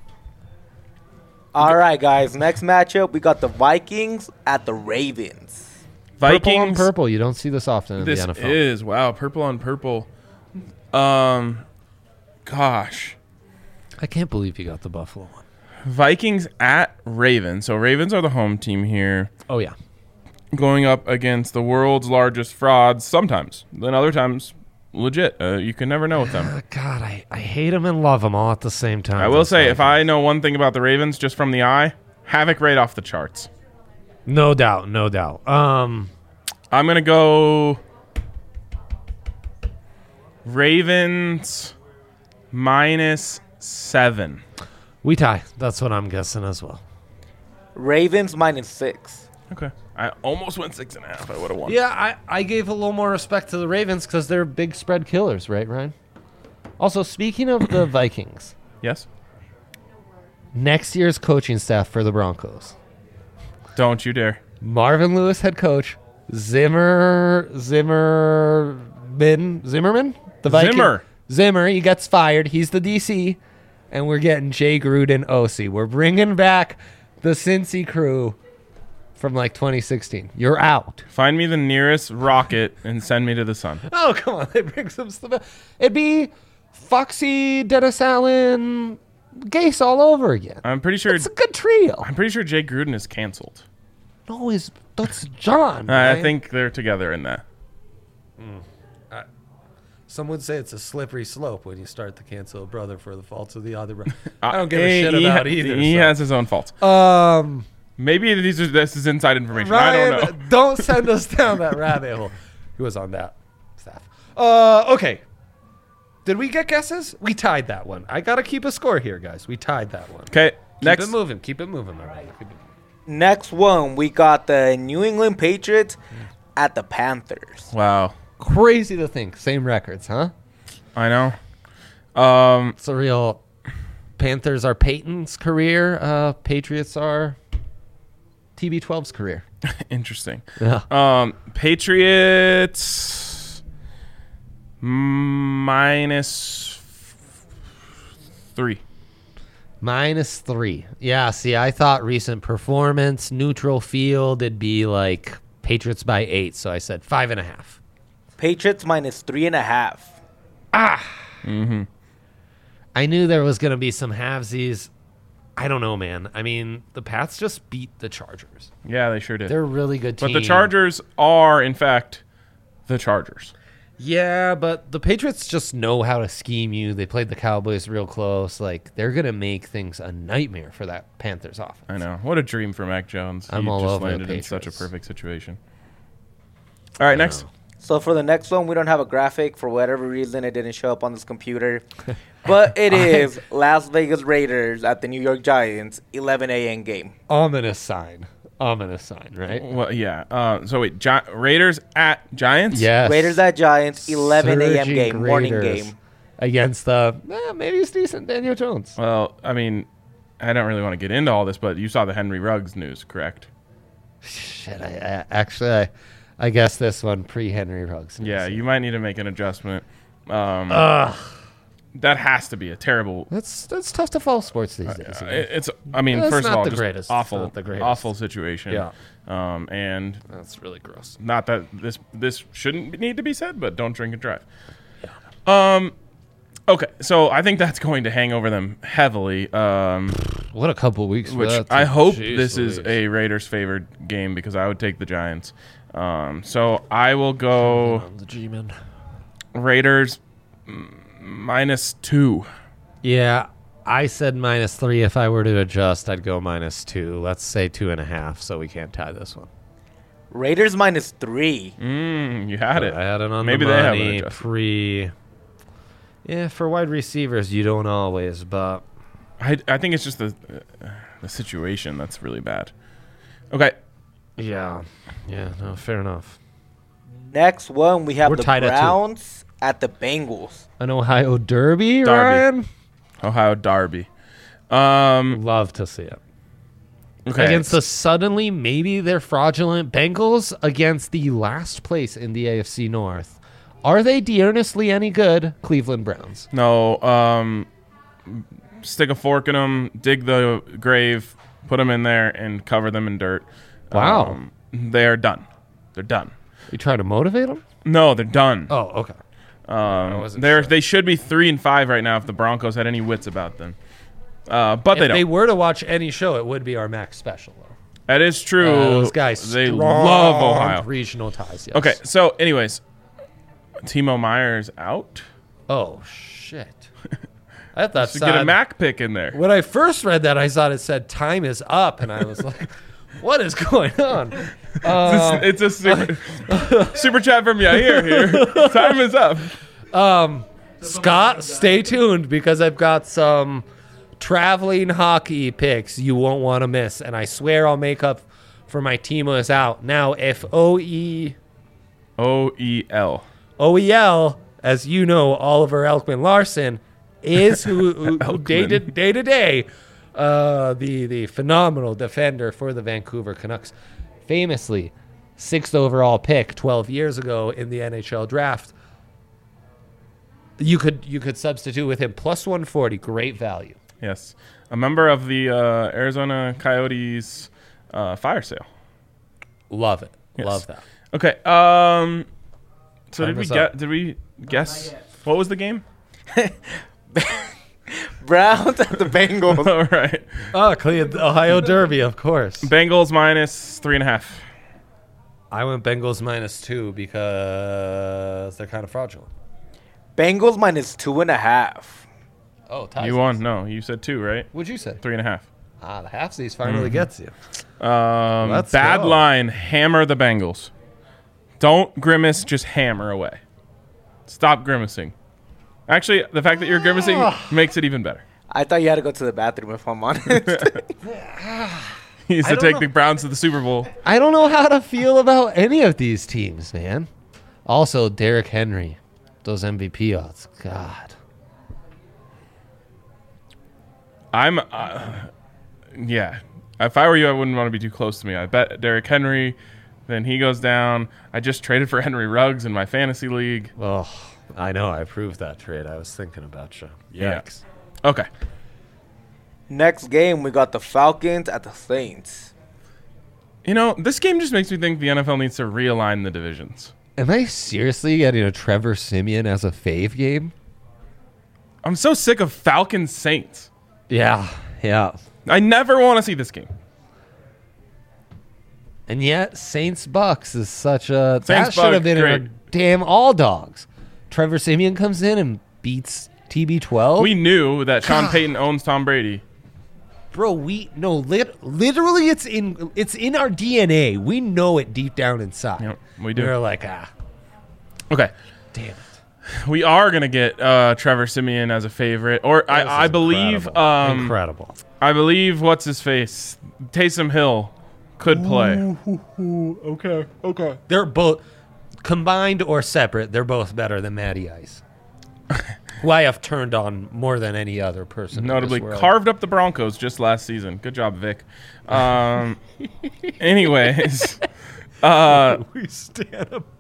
All right, guys. Next matchup, we got the Vikings at the Ravens. Vikings. Purple on purple. You don't see this often in This the N F L. is wow, purple on purple. Um, gosh, I can't believe you got the Buffalo one. Vikings at Ravens. So Ravens are the home team here, Oh yeah. going up against the world's largest frauds. Sometimes, then other times, legit. Uh, you can never know with them. Uh, God, I, I hate them and love them all at the same time. I will Those say, if Vikings. I know one thing about the Ravens, just from the eye, havoc rate off the charts. no doubt, no doubt. Um, I'm gonna go Ravens minus seven. we tie. That's what I'm guessing as well. Ravens minus six. Okay, I almost went six and a half. I would have won. Yeah, I, I gave a little more respect to the Ravens because they're big spread killers, right, Ryan? Also, speaking of the Vikings, Yes. next year's coaching staff for the Broncos. Don't you dare. Marvin Lewis head coach, Zimmer Zimmerman Zimmerman? The Viking Zimmer. Zimmer, he gets fired. He's the D C. And we're getting Jay Gruden O C. We're bringing back the Cincy crew from like twenty sixteen. You're out. Find me the nearest rocket and send me to the sun. Oh, come on. They bring some stuff. It'd be Foxy, Dennis Allen, Gase all over again. I'm pretty sure. It's a good trio. I'm pretty sure Jay Gruden is canceled. No, is that's John. I right? think they're together in that. Some would say it's a slippery slope when you start to cancel a brother for the faults of the other brother. Uh, I don't give a he- shit he about ha- either. He so. has his own faults. Um, Maybe these are this is inside information. Ryan, I don't know. don't send us down that rabbit hole. Who was on that staff? Uh, okay. Did we get guesses? We tied that one. I gotta keep a score here, guys. We tied that one. Okay, Keep next. it moving. Keep it moving, my brother. Keep it- Next one, we got the New England Patriots at the Panthers. Wow, Crazy to think. Same records, huh? I know. Um, It's a real. Panthers are Peyton's career. Uh, Patriots are T B twelve's career. interesting. Yeah. Um, Patriots minus three. Minus three. Yeah, see, I thought recent performance, neutral field, it'd be like Patriots by eight. So I said five and a half. Patriots minus three and a half. Mm-hmm. I knew there was going to be some halvesies. I don't know, man. I mean, the Pats just beat the Chargers. Yeah, they sure did. They're a really good team. But the Chargers are, in fact, the Chargers. Yeah, but the Patriots just know how to scheme you. They played the Cowboys real close. Like, they're going to make things a nightmare for that Panthers offense. I know. What a dream for Mac Jones. I'm he all just over the landed in such a Patriots. perfect situation. All right, next. So for the next one, we don't have a graphic. For whatever reason, it didn't show up on this computer. But it is Las Vegas Raiders at the New York Giants, eleven a.m. game. Ominous sign. Ominous sign, right? Well, yeah. Uh, so wait, Gi- Raiders at Giants? Yes. Raiders at Giants, eleven a.m. Surging game, morning Raiders game. Against the, eh, maybe it's decent, Daniel Jones. Well, I mean, I don't really want to get into all this, but you saw the Henry Ruggs news, correct? Shit, I, I actually, I, I guess this one pre-Henry Ruggs. Yeah, you might need to make an adjustment. Um, Ugh. that has to be a terrible. That's that's tough to follow sports these days. Uh, you know? it- it's. I mean, It's first of not all, the just greatest. It's awful, not the greatest. awful situation. Yeah. Um, and That's really gross. not that this this shouldn't need to be said, but don't drink and drive. Um. Okay, so I think that's going to hang over them heavily. Um, What a couple weeks. for which that, I too. hope Jeez this is Louise. a Raiders favored game because I would take the Giants. Um, so I will go I'm the G-man. Raiders mm, minus two. Yeah, I said minus three. If I were to adjust, I'd go minus two. Let's say two and a half, so we can't tie this one. Raiders minus three. Mm, you had it. I had it on Maybe the they have an money adjustment. pre. Yeah, for wide receivers, you don't always, but I, I think it's just the uh, the situation that's really bad. Okay, yeah, yeah, no, fair enough. Next one, we have We're the tied at two. Browns at the Bengals. An Ohio Derby, Derby. Ryan. Ohio Derby. Um, Love to see it. okay. Against the suddenly maybe they're fraudulent Bengals against the last place in the A F C North. Are they de-earnestly any good? Cleveland Browns. No, um, stick a fork in them, dig the grave, put them in there, and cover them in dirt. Wow. Um, they are done. They're done. You trying to motivate them? No, they're done. Oh, okay. um, wasn't they're sure. they should be three and five right now if the Broncos had any wits about them. Uh, but they If don't. they were to watch any show, it would be our Max special, though. that is true. Uh, those guys, they strong love Ohio. regional ties. Yes. Okay, so anyways, Timo Meyer's out. Oh shit! I thought To get a said- Mac pick in there. When I first read that, I thought it said "time is up," and I was like, "What is going on?" Uh, it's a super, super chat from Yair here. Time is up. um, Scott, stay tuned because I've got some traveling hockey picks you won't want to miss, and I swear I'll make up for my Timo is out now. If O E O E L. O E L, as you know, Oliver Elkman Larson is who, who, who day to day to day, uh, the the phenomenal defender for the Vancouver Canucks, famously sixth overall pick twelve years ago in the N H L draft. You could you could substitute with him plus one forty, great value. Yes. A member of the uh, Arizona Coyotes uh, fire sale. Love it, Yes. love that. Okay. Um. So Time did we is get? up. Did we guess? What was the game? Browns at the Bengals. All right. Oh, clean Ohio Derby, of course. Bengals minus three and a half. I went Bengals minus two because they're kind of fraudulent. Bengals minus two and a half. Oh, ties. You won. No, you said two, right? What'd you say? Three and a half. Ah, the halfsies finally gets you. Um, Let's bad go. line. Hammer the Bengals. Don't grimace. Just hammer away. Stop grimacing. Actually, the fact that you're grimacing makes it even better. I thought you had to go to the bathroom, if I'm honest. He used I to don't take know. the Browns to the Super Bowl. I don't know how to feel about any of these teams, man. Also, Derrick Henry, those M V P odds. God. I'm, uh, yeah. If I were you, I wouldn't want to be too close to me. I bet Derrick Henry, then he goes down. I just traded for Henry Ruggs in my fantasy league. Oh, I know. I approved that trade. I was thinking about you. Yeah. Yikes. Okay. Next game, we got the Falcons at the Saints. You know, this game just makes me think the N F L needs to realign the divisions. Am I seriously getting a Trevor Siemian as a fave game? I'm so sick of Falcons Saints. Yeah, yeah. I never want to see this game. And yet, Saints Bucks is such a Saints that should have Bucks, been in a great. damn all dogs. Trevor Siemian comes in and beats T B twelve. We knew that Sean Payton owns Tom Brady. Bro, we no lit, literally it's in it's in our D N A. We know it deep down inside. Yep, we do. We're like, ah, Okay. damn it. We are going to get uh, Trevor Siemian as a favorite. Or This I, I is believe incredible. um, incredible. I believe what's his face? Taysom Hill could play. Okay, okay. They're both combined or separate. They're both better than Matty Ice, who I have turned on more than any other person. in this Notably world. carved up the Broncos just last season. Good job, Vic. Um, anyways, uh, we stand up.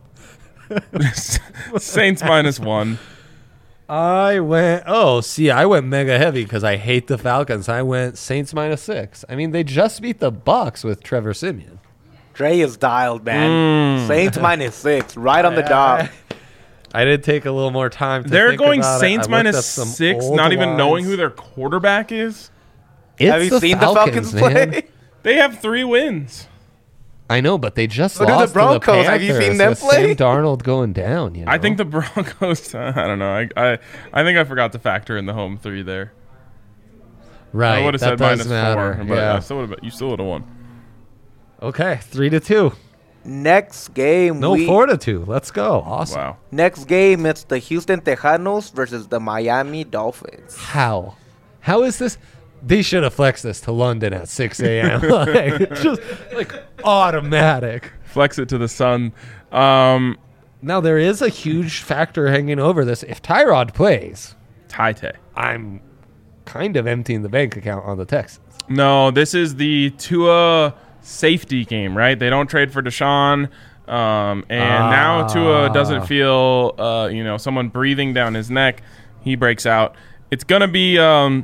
Saints minus one. I went. Oh, see, I went mega heavy because I hate the Falcons. I went Saints minus six. I mean, they just beat the Bucks with Trevor Siemian. Dre is dialed, man. Saints minus six, right on the dot. I did take a little more time. to They're think going about it. I Saints looked minus up some six, old not even knowing lines. who their quarterback is. It's Have you the seen Falcons, the Falcons man. play? They have three wins. I know, but they just So do the lost Broncos. to the Have you Panthers seen them with play? Sam Darnold going down. You know? I think the Broncos. I don't know. I, I I think I forgot to factor in the home three there. right. I would have that said does minus matter. four, but yeah. I still would've, you still would have won. Okay, three to two. Next game, No, we, four to two. Let's go. Awesome. Wow. next game, it's the Houston Tejanos versus the Miami Dolphins. How? How is this? They should have flexed this to London at six a.m. like, just like automatic. Flex it to the sun. Um, Now there is a huge factor hanging over this. If Tyrod plays, Tite. I'm kind of emptying the bank account on the Texans. No, this is the Tua safety game, right? They don't trade for Deshaun. Um, and now Tua doesn't feel, uh, you know, someone breathing down his neck. He breaks out. It's going to be um,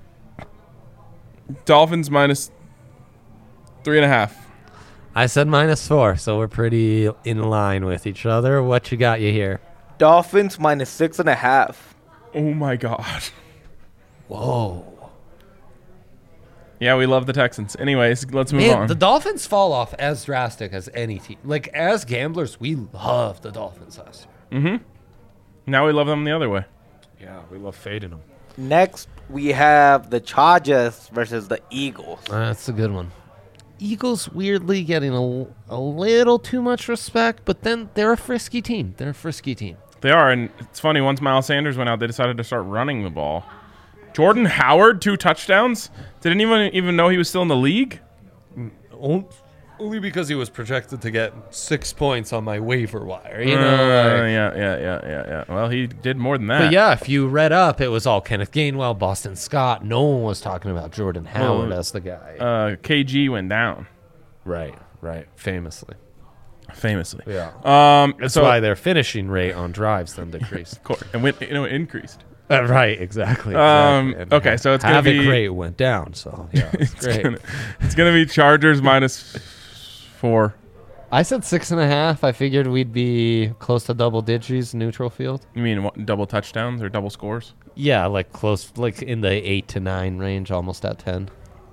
Dolphins minus three and a half. I said minus four, so we're pretty in line with each other. What you got you here? Dolphins minus six and a half. Oh, my God. Whoa. Yeah, we love the Texans. Anyways, let's move Man, on. the Dolphins fall off as drastic as any team. Like, as gamblers, we love the Dolphins last year. Now we love them the other way. Yeah, we love fading them. Next, we have the Chargers versus the Eagles. That's a good one. Eagles weirdly getting a, a little too much respect, but then they're a frisky team. They're a frisky team. They are, and it's funny, once Miles Sanders went out, they decided to start running the ball. Jordan Howard, two touchdowns? Didn't even even know he was still in the league? Only because he was projected to get six points on my waiver wire. You Uh, know, like- yeah, yeah, yeah, yeah, yeah. Well, he did more than that. But yeah, if you read up, it was all Kenneth Gainwell, Boston Scott. No one was talking about Jordan Howard Well, as the guy. Uh, K G went down, right, right. Famously. famously. Yeah. Um, That's so, why their finishing rate on drives then decreased. of course, and went, you know, increased. uh, right, exactly. Um, exactly. And okay, so it's gonna Havoc be- rate went down, so yeah, it's, It's great. gonna, it's gonna be Chargers minus four. I said six and a half. I figured we'd be close to double digits neutral field. You mean what, double touchdowns or double scores? Yeah, like close, like in the eight to nine range, almost at ten.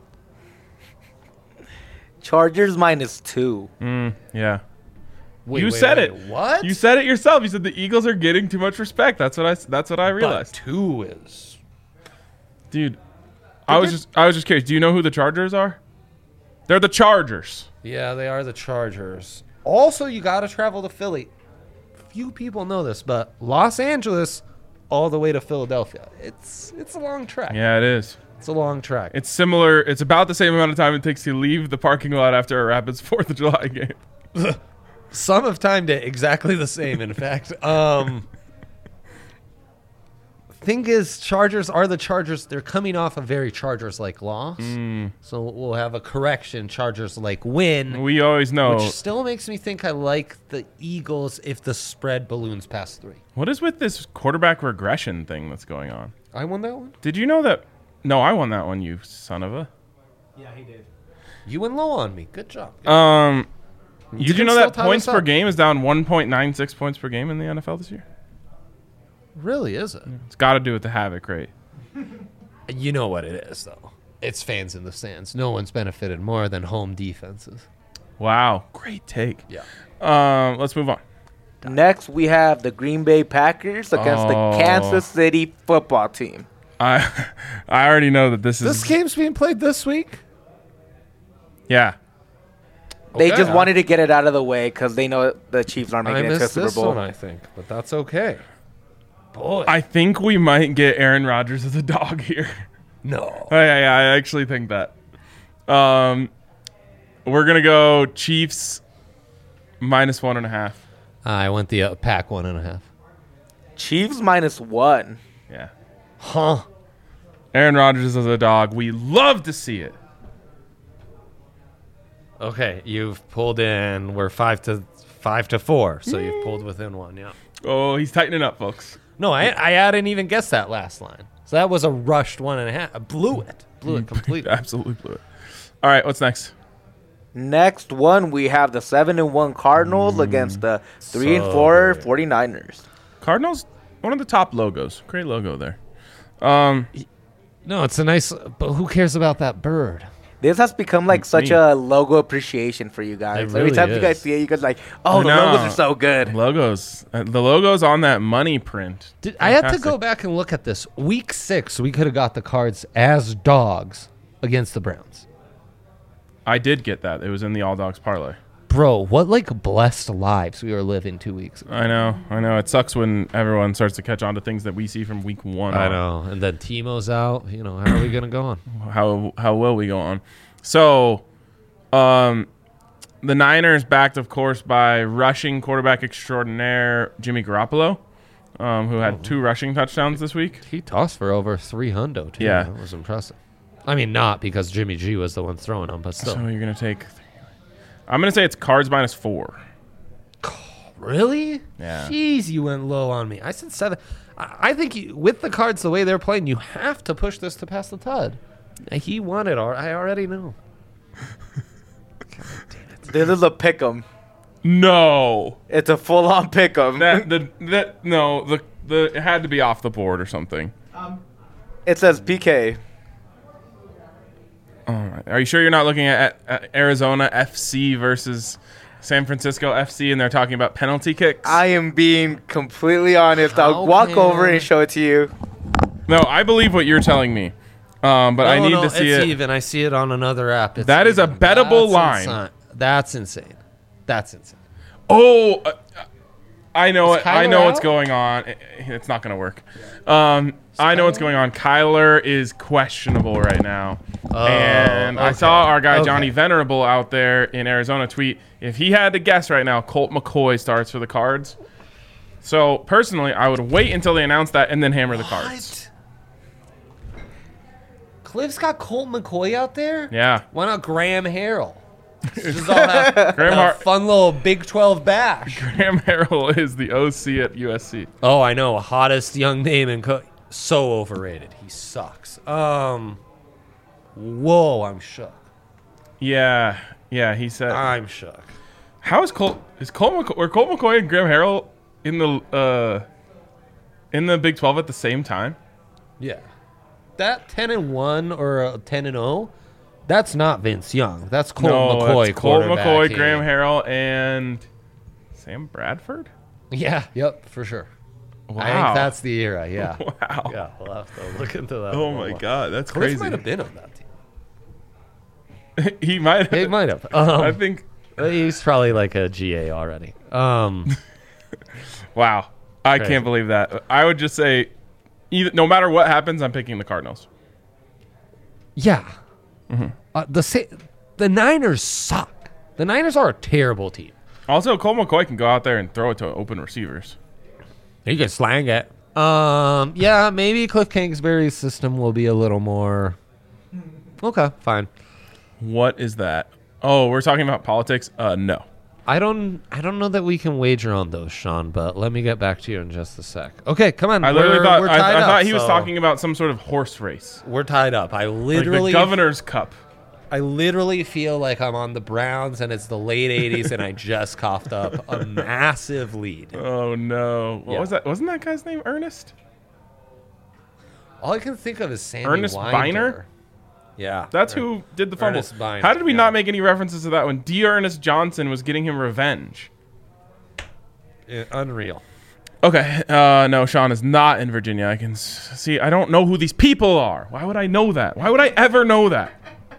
Chargers minus two. Mm, yeah. Wait, you wait, said wait, it. What? You said it yourself. You said the Eagles are getting too much respect. That's what I. That's what I But realized, two is. dude. I was did- just. I was just curious. Do you know who the Chargers are? They're the Chargers. Yeah, they are the Chargers. Also, you got to travel to Philly. Few people know this, but Los Angeles all the way to Philadelphia. It's it's a long trek. Yeah, it is. It's a long trek. It's similar. It's about the same amount of time it takes to leave the parking lot after a Rapids Fourth of July game. Some have timed it exactly the same, in fact. Um, thing is, Chargers are the Chargers. They're coming off a very Chargers-like loss. So we'll have a correction, Chargers-like win, We always know. which still makes me think I like the Eagles if the spread balloons past three. What is with this quarterback regression thing that's going on? I won that one? Did you know that No, I won that one, you son of a. Yeah, he did. You went low on me. Good job. Um, You did you can know still that tie points this per up. game is down one point nine six points per game in the N F L this year? Really, is it? It's got to do with the havoc rate. You know what it is, though. It's fans in the stands. No one's benefited more than home defenses. Wow, great take. Yeah. Um, let's move on. Next, we have the Green Bay Packers against Oh. the Kansas City football team. I I already know that this is This game's being played this week? yeah. They Okay. just wanted to get it out of the way because they know the Chiefs aren't I making it to a missed Super this Bowl. one, I think, but that's okay. Boy. I think we might get Aaron Rodgers as a dog here. no. Oh, yeah, yeah, I actually think that. Um, we're gonna go Chiefs minus one and a half. I went the uh, pack one and a half. Chiefs minus one. Yeah, Huh. Aaron Rodgers as a dog. We love to see it. Okay, you've pulled in. We're five to five to four, so you've pulled within one. Yeah. Oh, he's tightening up, folks. No, I I hadn't even guessed that last line. So that was a rushed one and a half. I blew it. Blew it completely. Absolutely blew it. All right, what's next? Next one, we have the seven and one Cardinals against the three and so four good. 49ers. Cardinals, one of the top logos. Great logo there. Um, No, it's a nice. But who cares about that bird? This has become like such Me. a logo appreciation for you guys. It Every really time you guys is. see it, you guys like, oh, I the know. logos are so good. logos. Uh, the logos on that money print. Did, I had to Fantastic. go back and look at this. Week six, we could have got the Cards as dogs against the Browns. I did get that. It was in the All Dogs parlay. Bro, what like blessed lives we were living two weeks ago. I know. I know. It sucks when everyone starts to catch on to things that we see from week one. I on. know. And then Timo's out. You know, how are we going to go on? How how will we go on? So, um, the Niners backed, of course, by rushing quarterback extraordinaire Jimmy Garoppolo, um, who had two rushing touchdowns this week. He tossed for over three hundred, too. Yeah. That was impressive. I mean, not because Jimmy G was the one throwing them, but still. So you're gonna take. I'm gonna say it's Cards minus four. Really? Yeah. Jeez, you went low on me. I said seven. I, I think you, with the Cards the way they're playing, you have to push this to pass the T U D. He won it. al- I already know. This is a pick 'em. No, It's a full on pick 'em. that the that no the the it had to be off the board or something. It says P K. All right. Are you sure you're not looking at, at Arizona F C versus San Francisco F C and they're talking about penalty kicks? I am being completely honest. How I'll walk can- over and show it to you. no, I believe what you're telling me, um, but I No, need no, to see it's it. even. I see it on another app. It's That is a even. bettable That's line. insi- That's insane. That's insane. Oh, uh, I know Is it. I Kyler know what's out? going on. It- it's not going to work. Um, I know what's going on. Kyler is questionable right now. Oh, and I okay. saw our guy Okay. Johnny Venerable out there in Arizona tweet, if he had to guess right now, Colt McCoy starts for the Cards. So personally, I would wait until they announce that and then hammer the Cards. Cliff's got Colt McCoy out there? Yeah. Why not Graham Harrell? Just all have, Graham have a Har- fun little Big twelve bash. Graham Harrell is the O C at U S C. Oh, I know. Hottest young name in co- so overrated. He sucks. Um, whoa, I'm shook. Yeah. Yeah, he said. I'm shook. How is Colt? Is Colt McCoy, were Colt McCoy and Graham Harrell in the uh, in the Big twelve at the same time? Yeah, that ten and one or a ten and zero. That's not Vince Young. That's Colt no, McCoy. it's Colt quarterback McCoy, here. Graham Harrell, and Sam Bradford. Yeah. Yep. For sure. Wow, I think that's the era. Yeah. wow. Yeah. We'll have to look into that. Oh a my little. God, that's Cliff crazy. might have been on that team. he might. He Have, might have. Um, I think. he's probably like a G A already. Um, Wow, I Crazy. can't believe that. I would just say, either no matter what happens, I'm picking the Cardinals. yeah. Uh, the Sa- the Niners suck. The Niners are a terrible team. Also, Colt McCoy can go out there and throw it to open receivers. You can slang it. Um, yeah, maybe Cliff Kingsbury's system will be a little more. Okay, fine. What is that? Oh, we're talking about politics. Uh, no. I don't I don't know that we can wager on those, Sean, but let me get back to you in just a sec. Okay, come on. I literally we're, thought we're I, tied I up, thought he was so talking about some sort of horse race, We're tied up. I like literally the Governor's Cup. I literally feel like I'm on the Browns and it's the late eighties and I just coughed up a massive lead. Oh no! What Yeah. was that? Wasn't that guy's name Ernest? All I can think of is Sammy Ernest Winder. Biner? Yeah. That's who did the fumble. Ernest Biner, How did we yeah. not make any references to that when D. Ernest Johnson was getting him revenge? Yeah, unreal. Okay, uh, no, Sean is not in Virginia. I can s- see. I don't know who these people are. Why would I know that? Why would I ever know that?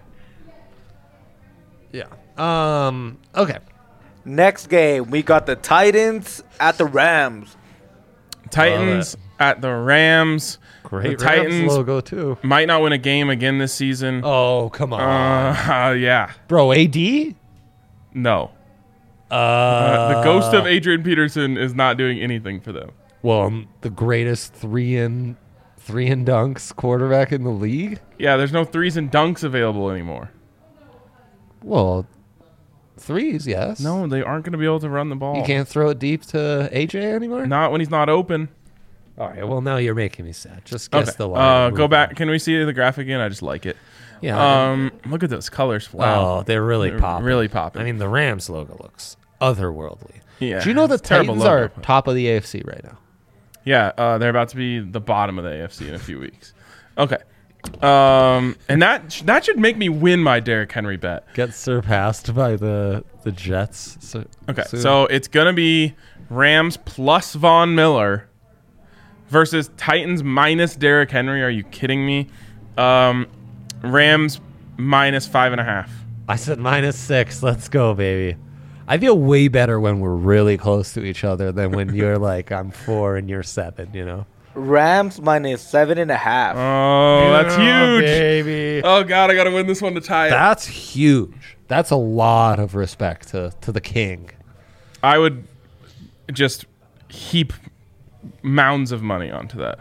Yeah. Um. Okay. Next game, we got the Titans at the Rams. Titans at the Rams. Great the Rams Titans logo too. might not win a game again this season. Oh come on, Uh, yeah. bro. A D. No. Uh, Uh, the ghost of Adrian Peterson is not doing anything for them. Well, um, the greatest three and three and dunks quarterback in the league. Yeah, there's no threes and dunks available anymore. Well, threes, yes. No, they aren't going to be able to run the ball. You can't throw it deep to A J anymore. Not when he's not open. All right. Well, now you're making me sad. Just guess Okay. the line. Uh, and go move back. on. Can we see the graphic again? I just like it. Yeah. Um, look at those colors. Wow. Oh, they're really They're popping. really popping. I mean, the Rams logo looks otherworldly. Yeah, Do you know the it's a terrible Titans logo. are top of the A F C right now? Yeah, uh, they're about to be the bottom of the A F C in a few weeks. Okay. Um, and that sh- that should make me win my Derrick Henry bet. Get surpassed by the the Jets. So, Okay, soon. so it's gonna be Rams plus Von Miller versus Titans minus Derrick Henry. Are you kidding me? Um, Rams minus five and a half. I said minus six. Let's go, baby. I feel way better when we're really close to each other than when you're like I'm four and you're seven. You know. Rams minus seven and a half. Oh, that's Yeah, huge. baby. Oh God, I gotta win this one to tie it. That's huge. That's a lot of respect to, to the king. I would just heap mounds of money onto that.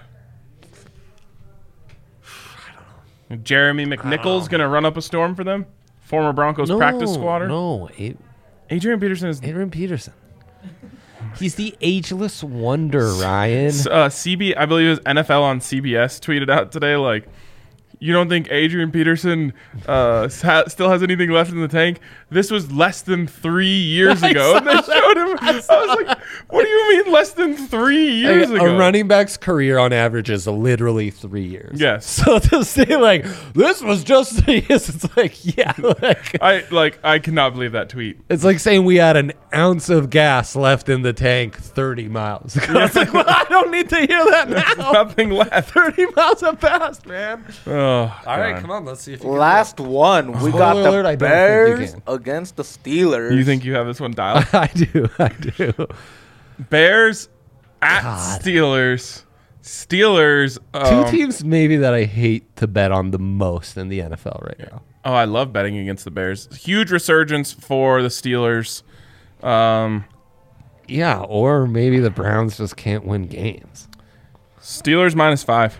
Jeremy McNichols gonna run up a storm for them. Former Broncos practice squatter. No, A- Adrian Peterson is Adrian Peterson. He's the ageless wonder, Ryan. uh, C B. I believe it was N F L on C B S tweeted out today like, you don't think Adrian Peterson uh, ha- still has anything left in the tank? This was less than three years I ago. saw And they showed him. I, was like, what do you mean less than three years a, ago? a running back's career on average is literally three years. Yes. So to say like this was just three years, it's like yeah, like I like. I cannot believe that tweet. it's like saying we had an ounce of gas left in the tank thirty miles ago. It's like, well, I don't need to hear that now. Nothing left. thirty miles have passed, man. Oh, All right, God. come on, let's see if you can Last one, we Spoiler got the alert, I don't think you Bears can. against the Steelers. You think you have this one dialed? I do, I do. Bears at God. Steelers. Steelers. Two Um, teams maybe that I hate to bet on the most in the N F L right now. oh, I love betting against the Bears. Huge resurgence for the Steelers. Um, Yeah, or maybe the Browns just can't win games. Steelers minus five.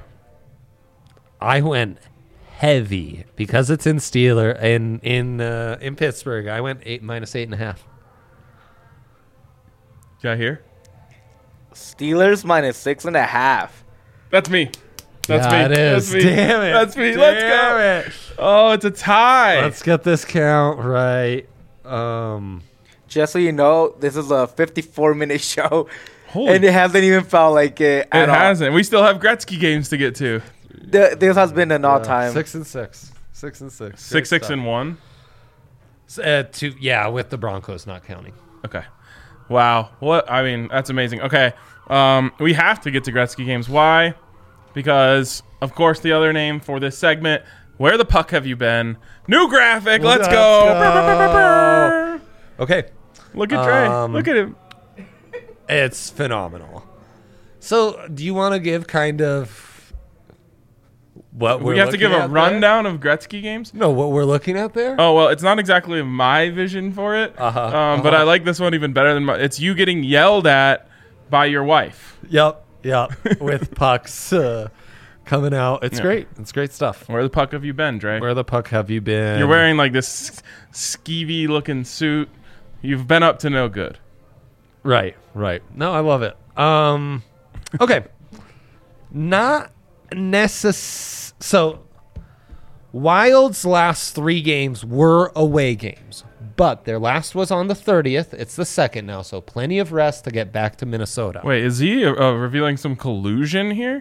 I went heavy because it's in Steeler in in uh, in Pittsburgh. I went eight minus eight and a half. Did I hear? Steelers minus six and a half. That's me. That's yeah, me. it is. That's me. Damn it. That's me. Let's go. Damn it. Oh, it's a tie. Let's get this count right. Um, Just so you know, this is a fifty-four minute show, Holy and it hasn't even felt like it at It all. hasn't. We still have Gretzky games to get to. Th- this has been an all-time. six and six. Six and six. Six, Great six, stuff. and one. S- Uh, two, yeah, with the Broncos not counting. Okay. Wow. What? I mean, that's amazing. Okay. Um, we have to get to Gretzky games. Why? Because, of course, the other name for this segment, Where the Puck Have You Been? New graphic. Let's, Let's go. go. Brr, brr, brr, brr, brr. Okay. Look at Trey. Um, Look at him. It's phenomenal. So, do you want to give kind of what we're We have to give looking a at rundown of Gretzky games. there? No, what we're looking at there? Oh, well, it's not exactly my vision for it. Uh-huh, Um, But uh-huh. I like this one even better than my. It's you getting yelled at by your wife. Yep, yep. With pucks uh, coming out. It's Yeah. great. It's great stuff. Where the puck have you been, Dre? Where the puck have you been? You're wearing like this skeevy looking suit. You've been up to no good. Right, right. No, I love it. Um, okay. Not necess. So, Wild's last three games were away games, but their last was on the thirtieth. It's the second now, so plenty of rest to get back to Minnesota. Wait, is he uh, uh, revealing some collusion here?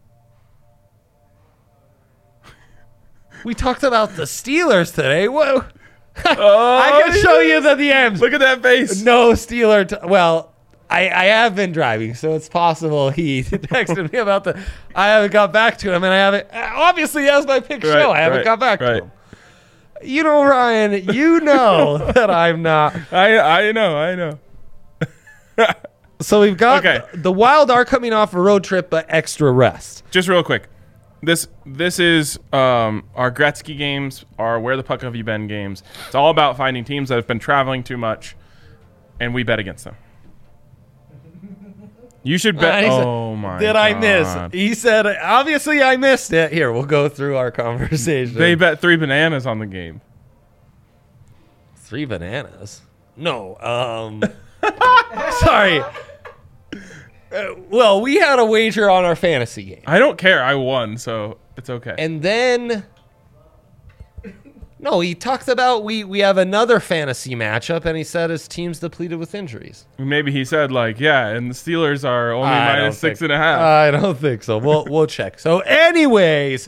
We talked about the Steelers today. Whoa. Oh, I can show you the D Ms. Look at that face. No Steeler. T- well, I, I have been driving, so it's possible he texted me about the. I haven't got back to him, and I haven't. Obviously, as my pick Right, show, I haven't right, got back right. to him. You know, Ryan, you know that I'm not. I I know, I know. So we've got Okay. the Wild are coming off a road trip, but extra rest. Just real quick. This this is um, our Gretzky games, our Where the Puck Have You Been games. It's all about finding teams that have been traveling too much, and we bet against them. You should bet. Uh, he said, oh my! Did God. I miss? He said, obviously I missed it. Here, we'll go through our conversation. They bet three bananas on the game. Three bananas? No. Um. Sorry. Uh, well, we had a wager on our fantasy game. I don't care. I won, so it's okay. And then, no, he talked about we, we have another fantasy matchup, and he said his team's depleted with injuries. Maybe he said like, yeah, and the Steelers are only I minus don't six think- and a half. I don't think so. We'll we'll check. So, anyways,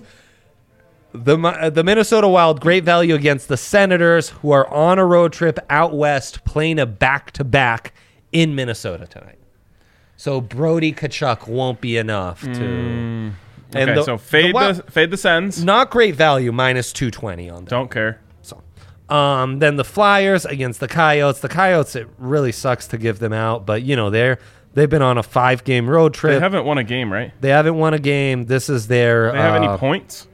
the Mi- the Minnesota Wild, great value against the Senators, who are on a road trip out west, playing a back to back in Minnesota tonight. So Brody Tkachuk won't be enough to. Mm, and okay, the- so fade the the, Wild- fade the Sens. Not great value, minus two twenty on them. Don't care. So, um, then the Flyers against the Coyotes. The Coyotes, it really sucks to give them out, but you know they're they've been on a five game road trip. They haven't won a game, right? They haven't won a game. This is their. They have uh, any points?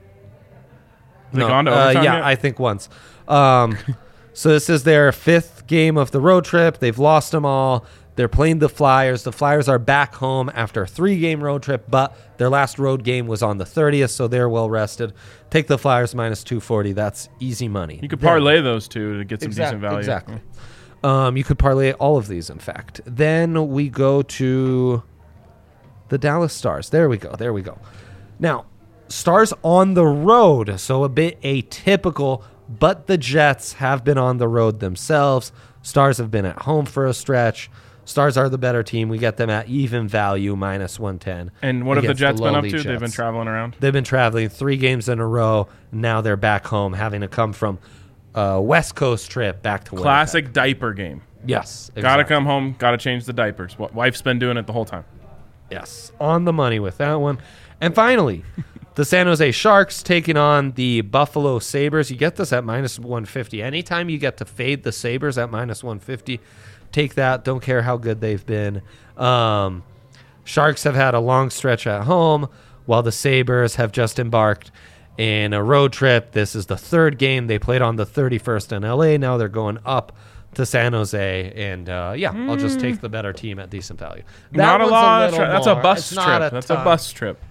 Have No, they gone to uh, overtime yeah, yet? I think once. Um, so this is their fifth game of the road trip. They've lost them all. They're playing the Flyers. The Flyers are back home after a three-game road trip, but their last road game was on the thirtieth, so they're well rested. Take the Flyers minus two forty. That's easy money. You could Then- parlay those two to get some Exact- decent value. Exactly. Um, you could parlay all of these, in fact. Then we go to the Dallas Stars. There we go. There we go. Now, Stars on the road, so a bit atypical, but the Jets have been on the road themselves. Stars have been at home for a stretch. Stars are the better team. We get them at even value, minus one ten. And what have the against Jets been up lowly to? They've been Jets. traveling around. They've been traveling three games in a row. Now they're back home, having to come from a West Coast trip back to Winnipeg. Classic diaper game. Yes. Gotta exactly. come home. Gotta change the diapers. Wa- Wife's been doing it the whole time. Yes. On the money with that one. And finally, the San Jose Sharks taking on the Buffalo Sabres. You get this at minus one fifty. Anytime you get to fade the Sabres at minus one fifty, take that. Don't care how good they've been. Um, Sharks have had a long stretch at home, while the Sabres have just embarked in a road trip. This is the third game. They played on the thirty-first in L A. Now they're going up to San Jose. And, uh, yeah, I'll just take the better team at decent value. That Not a one's lot. of little tra- that's a more. bus It's not trip. a That's a ton. bus trip.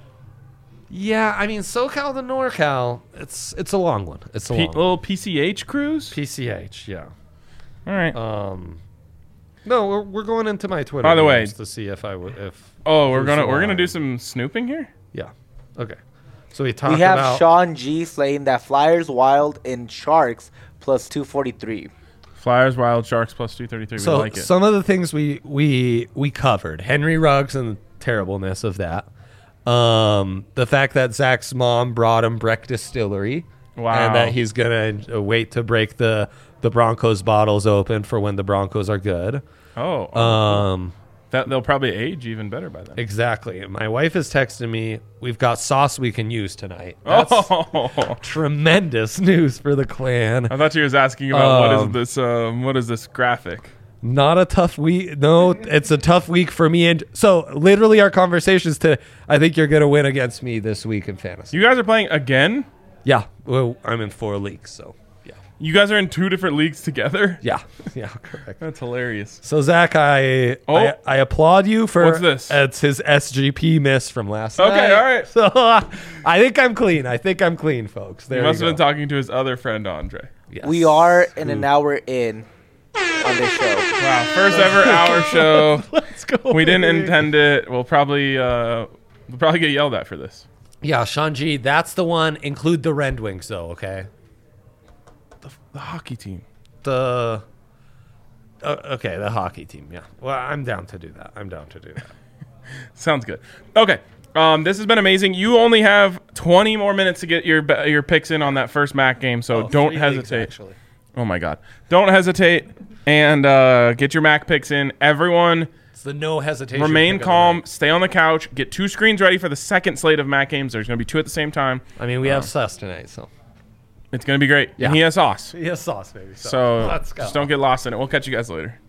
Yeah, I mean, SoCal to NorCal, it's it's a long one. It's a P- long one. little P C H cruise. P C H, yeah. All right. Um, no, we're, we're going into my Twitter. By the way- games to see if I would if. oh, we're who's gonna the we're gonna line. do some snooping here. Yeah. Okay. So we talked We have about Sean G slaying that Flyers, Wild, and Sharks plus two forty-three. Flyers, Wild, Sharks plus two thirty three. We so like it. some of the things we we we covered. Henry Ruggs and the terribleness of that. Um, the fact that Zach's mom brought him Breck Distillery. Wow. And that he's gonna uh, wait to break the the Broncos bottles open for when the Broncos are good. oh, oh, Um, that they'll probably age even better by then. exactly. My wife is texting me. We've got sauce we can use tonight. That's Oh, tremendous news for the clan. I thought you was asking about what Um, is this? Um, what is this graphic? Not a tough week. No, it's a tough week for me. And so, literally, our conversations to. I think you're gonna win against me this week in fantasy. You guys are playing again. Yeah. Well, I'm in four leagues, so yeah. You guys are in two different leagues together. Yeah. Yeah. Correct. That's hilarious. So Zach, I, Oh. I I applaud you for What's this? It's his S G P miss from last Okay, night. all right. So uh, I think I'm clean. I think I'm clean, folks. There He you must have go. been talking to his other friend Andre. Yes. We are in Who- an hour in. on this show. Wow, first ever hour show. Let's go. We didn't baby. intend it. We'll probably uh, we'll probably get yelled at for this. Yeah, Shanji, that's the one. Include the Red Wings, though, okay? The, the hockey team. The. Uh, okay, the hockey team, yeah. Well, I'm down to do that. I'm down to do that. Sounds good. Okay. Um, this has been amazing. You only have twenty more minutes to get your be- your picks in on that first Mac game, so Oh, don't three leagues, hesitate. actually. Oh my God! Don't hesitate and uh, get your Mac picks in. Everyone, It's the no hesitation. remain pick of the calm. night. Stay on the couch. Get two screens ready for the second slate of Mac games. There's going to be two at the same time. I mean, we have sus tonight, so. It's going to be great. Yeah. And he has sauce. He has sauce, baby. So let's go. just don't get lost in it. We'll catch you guys later.